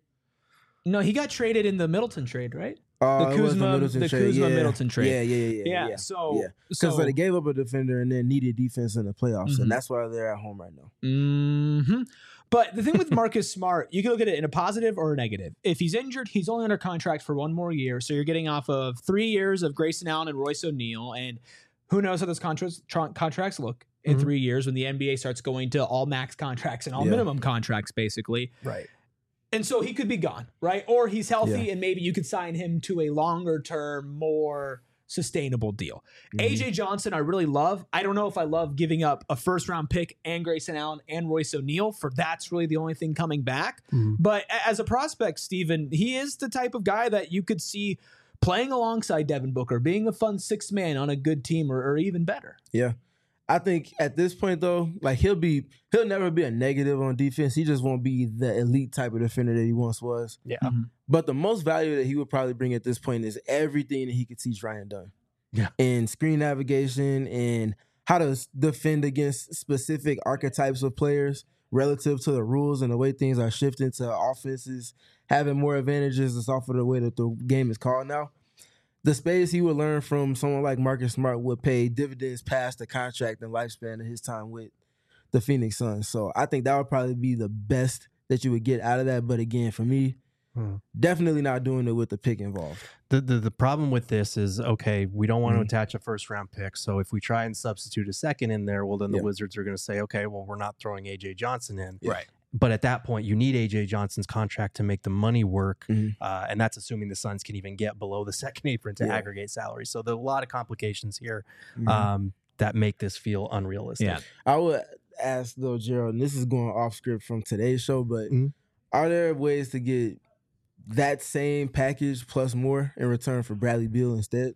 No, he got traded in the Middleton trade, right? Uh, the Kuzma, the, the Kuzma yeah. Middleton trade. Yeah, yeah, yeah, yeah. yeah. So, yeah. Because so, they gave up a defender and then needed defense in the playoffs, mm-hmm. and that's why they're at home right now. Mm-hmm. But the thing with Marcus Smart, you can look at it in a positive or a negative. If he's injured, he's only under contract for one more year, so you're getting off of three years of Grayson Allen and Royce O'Neal, and who knows how those contracts tra- contracts look in mm-hmm. three years when the N B A starts going to all max contracts and all yeah. minimum contracts, basically. Right. And so he could be gone, right? Or he's healthy yeah. and maybe you could sign him to a longer term, more sustainable deal. Mm-hmm. A J Johnson, I really love. I don't know if I love giving up a first round pick and Grayson Allen and Royce O'Neal for that's really the only thing coming back. Mm-hmm. But as a prospect, Steven, he is the type of guy that you could see playing alongside Devin Booker, being a fun sixth man on a good team or, or even better. Yeah. I think at this point, though, like he'll be, he'll never be a negative on defense. He just won't be the elite type of defender that he once was. Yeah. Mm-hmm. But the most value that he would probably bring at this point is everything that he could teach Ryan Dunn. Yeah. And screen navigation and how to defend against specific archetypes of players relative to the rules and the way things are shifting to offenses, having more advantages just off of the way that the game is called now. The space he would learn from someone like Marcus Smart would pay dividends past the contract and lifespan of his time with the Phoenix Suns. So I think that would probably be the best that you would get out of that. But again, for me, hmm. definitely not doing it with the pick involved. The, the the problem with this is, okay, we don't want mm-hmm. to attach a first round pick. So if we try and substitute a second in there, well, then the yeah. Wizards are going to say, okay, well, we're not throwing A J Johnson in. Yeah. Right. But at that point, you need A J Johnson's contract to make the money work, mm-hmm. uh, and that's assuming the Suns can even get below the second apron to yeah. aggregate salary. So there are a lot of complications here mm-hmm. um, that make this feel unrealistic. Yeah. I would ask, though, Gerald, and this is going off script from today's show, but mm-hmm. are there ways to get that same package plus more in return for Bradley Beal instead?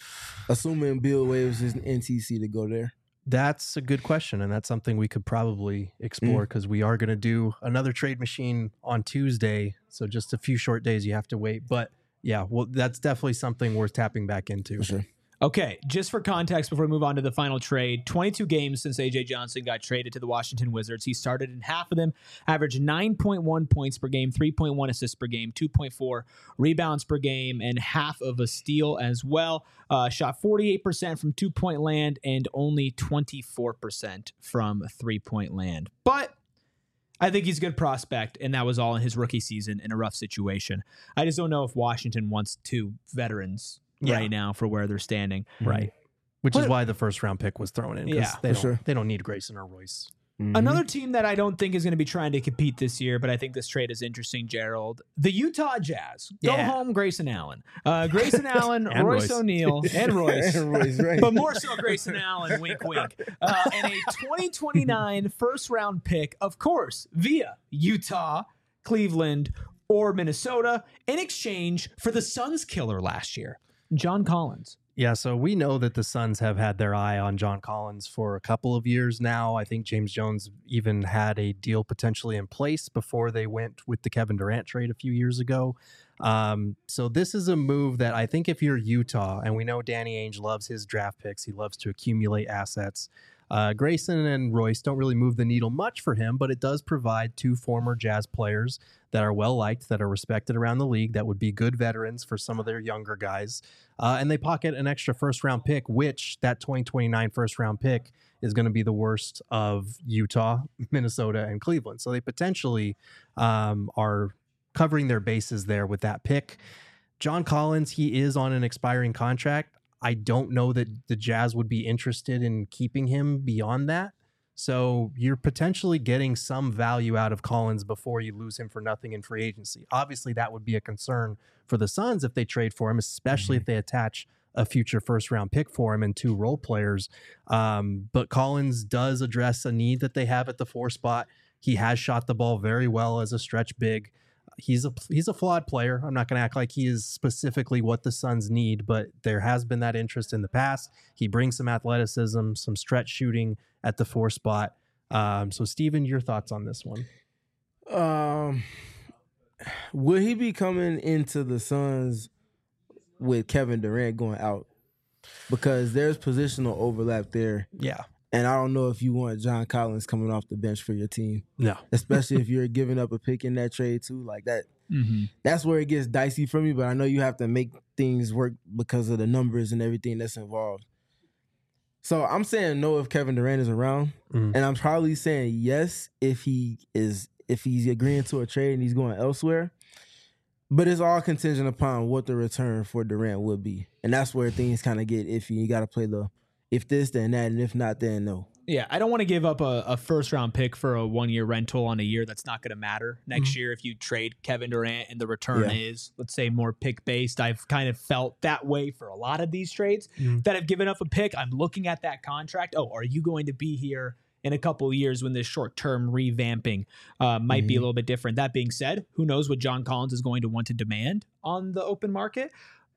Assuming Beal waives his N T C to go there. That's a good question, and that's something we could probably explore because mm. we are going to do another trade machine on Tuesday. So just a few short days you have to wait. But yeah, well, that's definitely something worth tapping back into. For sure. Okay, just for context before we move on to the final trade, twenty-two games since A J Johnson got traded to the Washington Wizards. He started in half of them, averaged nine point one points per game, three point one assists per game, two point four rebounds per game, and half of a steal as well. Uh, shot forty-eight percent from two-point land and only twenty-four percent from three-point land. But I think he's a good prospect, and that was all in his rookie season in a rough situation. I just don't know if Washington wants two veterans Yeah. right now for where they're standing. Right. Which But- is why the first round pick was thrown in. 'Cause Yeah, they for don't, sure. They don't need Grayson or Royce. Mhm. Another team that I don't think is going to be trying to compete this year, but I think this trade is interesting, Gerald. The Utah Jazz. Go Yeah. home, Grayson Allen. Uh, Grayson Allen, And Royce, Royce. O'Neal, and Royce. And Royce, right. But more so Grayson Allen, wink, wink. Uh, and a twenty twenty-nine first round pick, of course, via Utah, Cleveland, or Minnesota in exchange for the Suns killer last year, John Collins. Yeah, so we know that the Suns have had their eye on John Collins for a couple of years now. I think James Jones even had a deal potentially in place before they went with the Kevin Durant trade a few years ago. Um, so this is a move that I think if you're Utah, and we know Danny Ainge loves his draft picks, he loves to accumulate assets. Uh, Grayson and Royce don't really move the needle much for him, but it does provide two former Jazz players that are well-liked, that are respected around the league, that would be good veterans for some of their younger guys. Uh, and they pocket an extra first-round pick, which that twenty twenty-nine first-round pick is going to be the worst of Utah, Minnesota, and Cleveland. So they potentially um, are covering their bases there with that pick. John Collins, he is on an expiring contract. I don't know that the Jazz would be interested in keeping him beyond that. So you're potentially getting some value out of Collins before you lose him for nothing in free agency. Obviously, that would be a concern for the Suns if they trade for him, especially mm-hmm. if they attach a future first round pick for him and two role players. Um, but Collins does address a need that they have at the four spot. He has shot the ball very well as a stretch big. He's a he's a flawed player. I'm not going to act like he is specifically what the Suns need, but there has been that interest in the past. He brings some athleticism, some stretch shooting at the four spot. Um, so, Steven, your thoughts on this one? Um, will he be coming into the Suns with Kevin Durant going out? Because there's positional overlap there. Yeah. And I don't know if you want John Collins coming off the bench for your team. No. Especially if you're giving up a pick in that trade too. Like that. Mm-hmm. That's where it gets dicey for me, but I know you have to make things work because of the numbers and everything that's involved. So I'm saying no if Kevin Durant is around. Mm. And I'm probably saying yes if he is if he's agreeing to a trade and he's going elsewhere. But it's all contingent upon what the return for Durant would be. And that's where things kind of get iffy. You got to play the if this, then that, and if not, then no. Yeah, I don't want to give up a, a first-round pick for a one-year rental on a year that's not going to matter next mm-hmm. year if you trade Kevin Durant and the return yeah. is, let's say, more pick-based. I've kind of felt that way for a lot of these trades mm-hmm. that have given up a pick. I'm looking at that contract. Oh, are you going to be here in a couple of years when this short-term revamping uh, might mm-hmm. be a little bit different? That being said, who knows what John Collins is going to want to demand on the open market?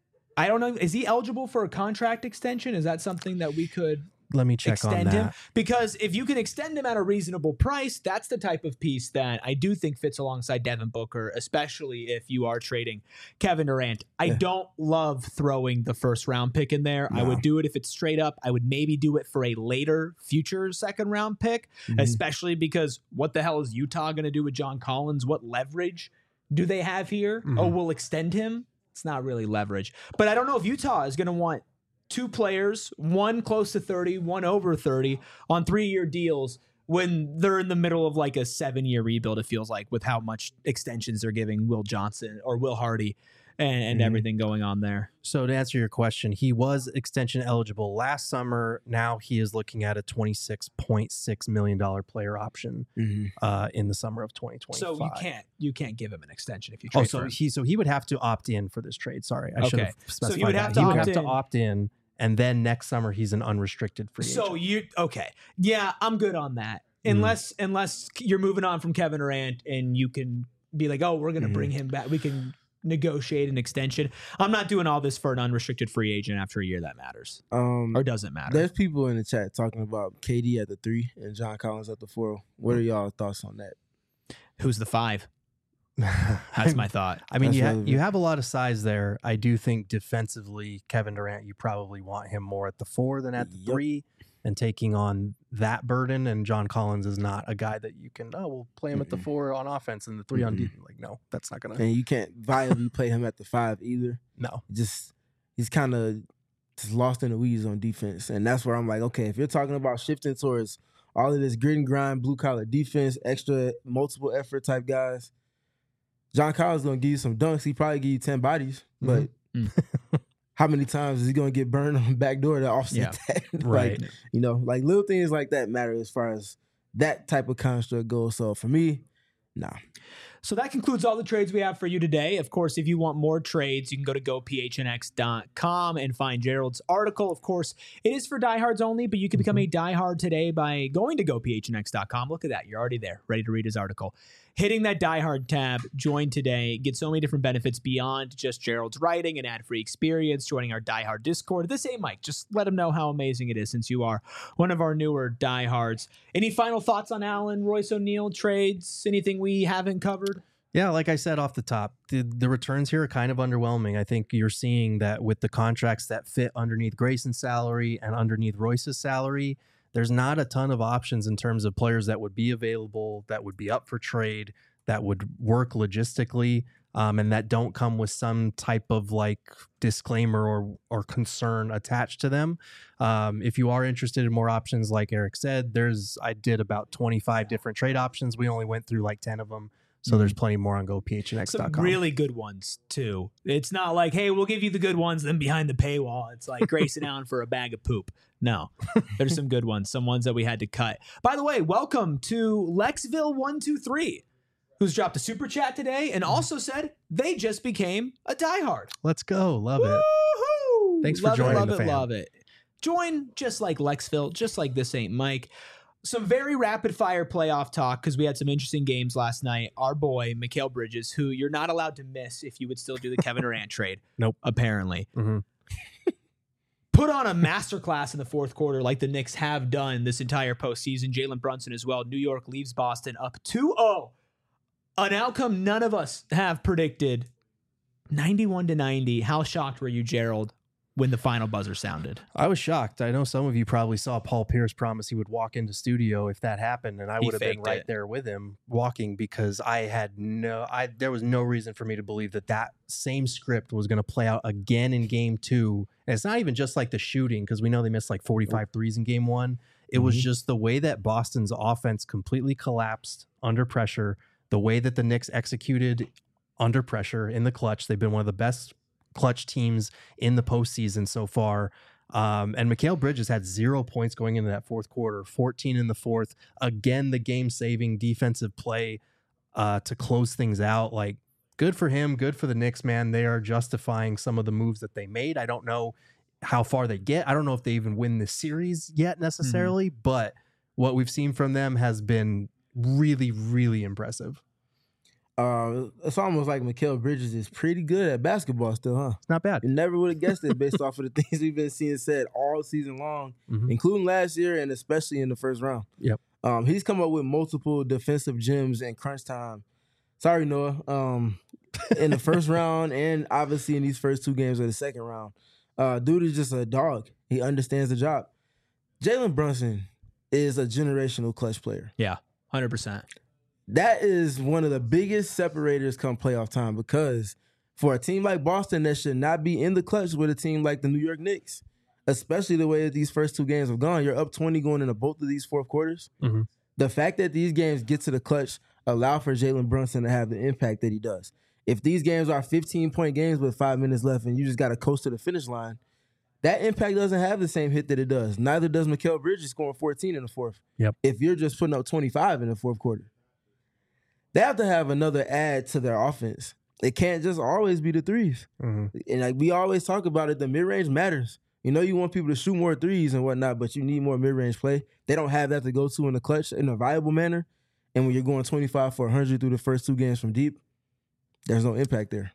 I don't know. Is he eligible for a contract extension? Is that something that we could let me check extend on that? him? Because if you can extend him at a reasonable price, that's the type of piece that I do think fits alongside Devin Booker, especially if you are trading Kevin Durant. I Yeah. don't love throwing the first round pick in there. No. I would do it if it's straight up. I would maybe do it for a later future second round pick, Mhm. especially because what the hell is Utah going to do with John Collins? What leverage do they have here? Mhm. Oh, we'll extend him. It's not really leverage. But I don't know if Utah is going to want two players, one close to thirty, one over thirty, on three-year deals when they're in the middle of like a seven-year rebuild, it feels like, with how much extensions they're giving Will Johnson or Will Hardy and, and Mhm. everything going on there. So to answer your question, he was extension eligible last summer. Now he is looking at a twenty-six point six million dollars player option Mhm. uh, in the summer of twenty twenty-five. So you can't you can't give him an extension if you trade Oh, for so him. he so he would have to opt in for this trade. Sorry, I should Okay. have So specified he would that. have to he would opt have in. to opt in, and then next summer he's an unrestricted free agent. So you okay? Yeah, I'm good on that. Unless unless you're moving on from Kevin Durant and you can be like, oh, we're gonna Mhm. bring him back. We can negotiate an extension. I'm not doing all this for an unrestricted free agent after a year that matters Um, or doesn't matter. there's people in the chat talking about K D at the three and John Collins at the four. What are y'all thoughts on that? Who's the five? That's my thought. I mean, That's you, ha- relevant. you have a lot of size there. I do think defensively, Kevin Durant, you probably want him more at the four than at the Yep. three and taking on that burden. And John Collins is not a guy that you can, oh, we'll play him at the Mm-mm. four on offense and the 3 on Mm-mm. defense. Like, no, that's not going to, And you can't viably play him at the five either. no. Just he's kind of just lost in the weeds on defense, and that's where I'm like, okay, if you're talking about shifting towards all of this grit and grind, blue collar defense, extra multiple effort type guys, John Collins is gonna give you some dunks. He probably give you ten bodies, but Mhm. how many times is he gonna get burned on the back door to offset Yeah. that? Right. Like, you know, like little things like that matter as far as that type of construct goes. So for me, nah. So that concludes all the trades we have for you today. Of course, if you want more trades, you can go to go p h n x dot com and find Gerald's article. Of course, it is for diehards only, but you can become a diehard today by going to go p h n x dot com. Look at that. You're already there, ready to read his article. Hitting that diehard tab, join today, get so many different benefits beyond just Gerald's writing and ad-free experience, joining our diehard Discord. This ain't Mike. Just let him know how amazing it is since you are one of our newer diehards. Any final thoughts on Allen, Royce O'Neal trades? Anything we haven't covered? Yeah, like I said off the top, the, the returns here are kind of underwhelming. I think you're seeing that with the contracts that fit underneath Grayson's salary and underneath Royce's salary, there's not a ton of options in terms of players that would be available, that would be up for trade, that would work logistically, um, and that don't come with some type of like disclaimer or or concern attached to them. Um, if you are interested in more options, like Eric said, there's I did about twenty-five different trade options. We only went through like ten of them. So there's plenty more on go p h n x dot com. Some really good ones, too. It's not like, hey, we'll give you the good ones, then behind the paywall, it's like Grayson Allen for a bag of poop. No, there's some good ones, some ones that we had to cut. By the way, welcome to Lexville one two three, who's dropped a super chat today and also said they just became a diehard. Let's go. Love it. Woo-hoo! Thanks for love joining it, love the it, fam. love it. Join just like Lexville, just like This Ain't Mike. Some very rapid fire playoff talk because we had some interesting games last night. Our boy, Mikal Bridges, who you're not allowed to miss if you would still do the Kevin Durant trade. Nope. Apparently. Mm-hmm. Put on a masterclass in the fourth quarter like the Knicks have done this entire postseason. Jalen Brunson as well. New York leaves Boston up two oh. An outcome none of us have predicted. ninety-one to ninety. How shocked were you, Gerald, when the final buzzer sounded? I was shocked. I know some of you probably saw Paul Pierce promise he would walk into studio if that happened, and I He would have been faked right it. there with him walking because I had no, I there was no reason for me to believe that that same script was going to play out again in game two. And it's not even just like the shooting because we know they missed like forty-five threes in game one. It was Mhm. just the way that Boston's offense completely collapsed under pressure, the way that the Knicks executed under pressure in the clutch. They've been one of the best clutch teams in the postseason so far. Um, and Mikal Bridges had zero points going into that fourth quarter, fourteen in the fourth. Again, the game-saving defensive play uh, to close things out. Like, good for him, good for the Knicks, man. They are justifying some of the moves that they made. I don't know how far they get. I don't know if they even win this series yet necessarily, mm-hmm. but what we've seen from them has been really, really impressive. Uh, it's almost like Mikal Bridges is pretty good at basketball still, huh? It's not bad. You never would have guessed it based off of the things we've been seeing said all season long, mm-hmm. including last year and especially in the first round. Yep. Um, he's come up with multiple defensive gems in crunch time. Sorry, Noah. Um, in the first round and obviously in these first two games of the second round. Uh, dude is just a dog. He understands the job. Jalen Brunson is a generational clutch player. Yeah, one hundred percent. That is one of the biggest separators come playoff time because for a team like Boston that should not be in the clutch with a team like the New York Knicks, especially the way that these first two games have gone, you're up twenty going into both of these fourth quarters. Mm-hmm. The fact that these games get to the clutch allow for Jalen Brunson to have the impact that he does. If these games are fifteen-point games with five minutes left and you just got to coast to the finish line, that impact doesn't have the same hit that it does. Neither does Mikal Bridges scoring fourteen in the fourth. Yep. If you're just putting up twenty-five in the fourth quarter. They have to have another add to their offense. It can't just always be the threes. Mm-hmm. And like we always talk about it, the mid-range matters. You know you want people to shoot more threes and whatnot, but you need more mid-range play. They don't have that to go to in the clutch in a viable manner. And when you're going twenty-five for one hundred through the first two games from deep, there's no impact there.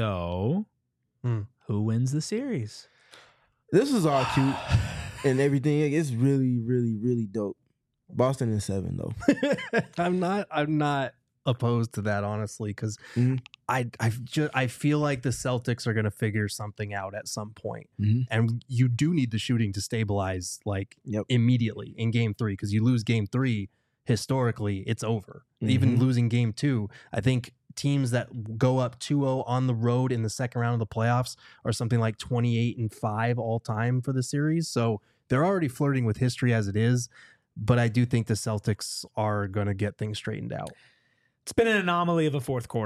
So, mm. who wins the series? This is all cute and everything. It's really, really, really dope. Boston in seven, though. I'm not. I'm not. opposed to that, honestly, because mm-hmm. I I just I feel like the Celtics are going to figure something out at some point, mm-hmm. and you do need the shooting to stabilize like yep. immediately in Game Three, because you lose Game Three, historically it's over. Mm-hmm. Even losing Game Two, I think teams that go up two oh on the road in the second round of the playoffs are something like twenty-eight and five all time for the series. So they're already flirting with history as it is, but I do think the Celtics are going to get things straightened out. It's been an anomaly of a fourth quarter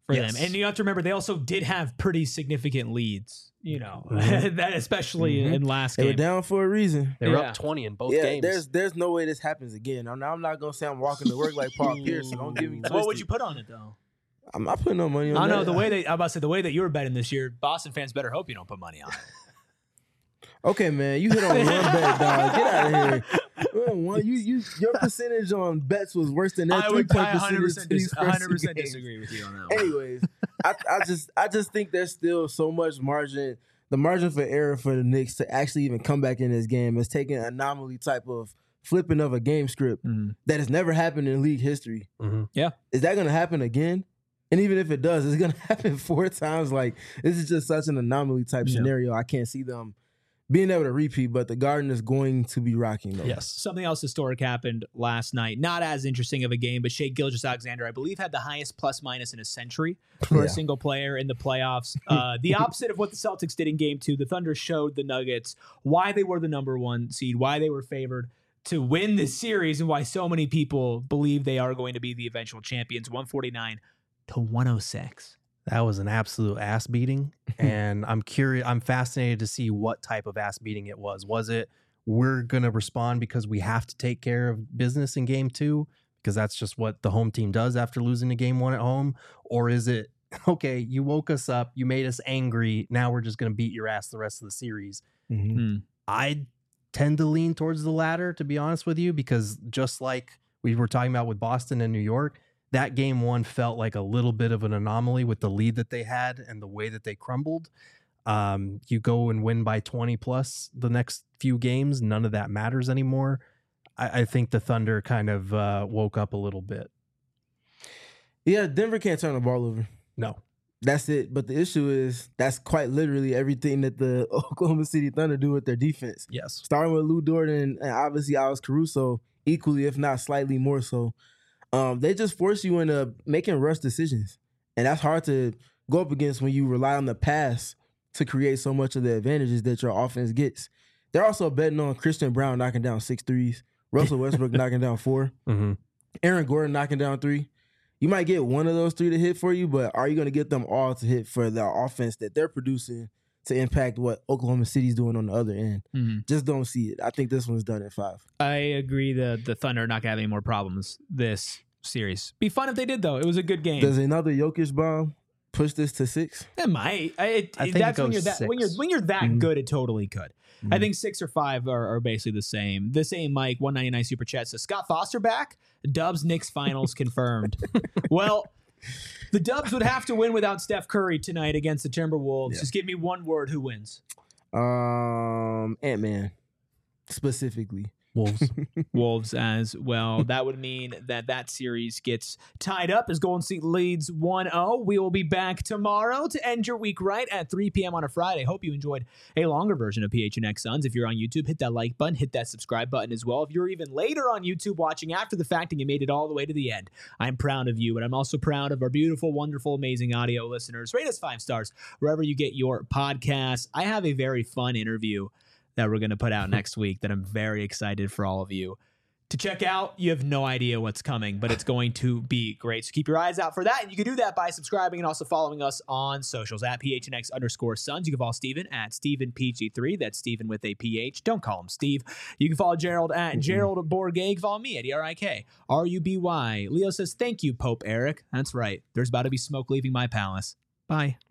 for Yes. them. And you have to remember, they also did have pretty significant leads, you know, Mhm. that especially Mhm. in last They were game. down for a reason. They were Yeah. up twenty in both yeah, games. there's there's no way this happens again. I'm, I'm not gonna say I'm walking to work like Paul Pierce, so don't get me twisted. What would you put on it, though? I'm not putting no money on I that. know the way that I'm about to say the way that you were betting this year, Boston fans better hope you don't put money on it. Okay, man, you hit on one bet, dog. Get out of here. One, you, you, your percentage on bets was worse than that I three would point I one hundred percentage. percent, to these dis- first one hundred percent two games. disagree with you on that one. Anyways, I, I just I just think there's still so much margin. The margin for error for the Knicks to actually even come back in this game is taking an anomaly type of flipping of a game script Mhm. that has never happened in league history. Mhm. Is that going to happen again? And even if it does, it's going to happen four times. Like, this is just such an anomaly type Yeah. scenario. I can't see them being able to repeat, but the Garden is going to be rocking, though. Yes. Something else historic happened last night. Not as interesting of a game, but Shea Gilgeous-Alexander, I believe, had the highest plus minus in a century for Yeah. a single player in the playoffs. Uh, the opposite of what the Celtics did in game two. The Thunder showed the Nuggets why they were the number one seed, why they were favored to win this series, and why so many people believe they are going to be the eventual champions. one forty-nine to one oh six. That was an absolute ass beating. And I'm curious, I'm fascinated to see what type of ass beating it was. Was it, we're going to respond because we have to take care of business in game two? Because that's just what the home team does after losing a game one at home? Or is it, okay, you woke us up, you made us angry, now we're just going to beat your ass the rest of the series? Mhm. I tend to lean towards the latter, to be honest with you, because just like we were talking about with Boston and New York, that game one felt like a little bit of an anomaly with the lead that they had and the way that they crumbled. Um, you go and win by twenty plus the next few games, none of that matters anymore. I, I think the Thunder kind of uh, woke up a little bit. Yeah, Denver can't turn the ball over. No. That's it. But the issue is that's quite literally everything that the Oklahoma City Thunder do with their defense. Yes. Starting with Lou Dort and, and obviously Alex Caruso, equally, if not slightly more so. Um, they just force you into making rush decisions. And that's hard to go up against when you rely on the pass to create so much of the advantages that your offense gets. They're also betting on Christian Brown knocking down six threes, Russell Westbrook knocking down four, Mm-hmm. Aaron Gordon knocking down three. You might get one of those three to hit for you, but are you going to get them all to hit for the offense that they're producing to impact what Oklahoma City's doing on the other end? Mm-hmm. Just don't see it. I think this one's done at five. I agree that the Thunder are not going to have any more problems this series. Be fun if they did, though. It was a good game. Does another Jokic bomb push this to six? It might. I, it, I think that's it when goes you're that when you're six. when you're that Mhm. good. It totally could. I Mhm. think six or five are, are basically the same. The same. Mike one ninety-nine super chat says Scott Foster back. Dubs Knicks finals confirmed. Well, the Dubs would have to win without Steph Curry tonight against the Timberwolves. Yeah. Just give me one word. Who wins? Um, Ant-Man specifically. Wolves. Wolves as well. That would mean that that series gets tied up as Golden State leads one oh. We will be back tomorrow to end your week right at three p.m. on a Friday. Hope you enjoyed a longer version of P H N X Suns. If you're on YouTube, hit that like button, hit that subscribe button as well. If you're even later on YouTube watching after the fact and you made it all the way to the end, I'm proud of you, but I'm also proud of our beautiful, wonderful, amazing audio listeners. Rate us five stars wherever you get your podcasts. I have a very fun interview that we're going to put out next week that I'm very excited for all of you to check out. You have no idea what's coming, but it's going to be great. So keep your eyes out for that. And you can do that by subscribing and also following us on socials at P H N X underscore Suns. You can follow Steven at Steven P G three. That's Steven with a P H. Don't call him Steve. You can follow Gerald at Mm-mm. Gerald Bourget. You can follow me at E R I K R U B Y. Leo says, thank you, Pope Eric. That's right. There's about to be smoke leaving my palace. Bye.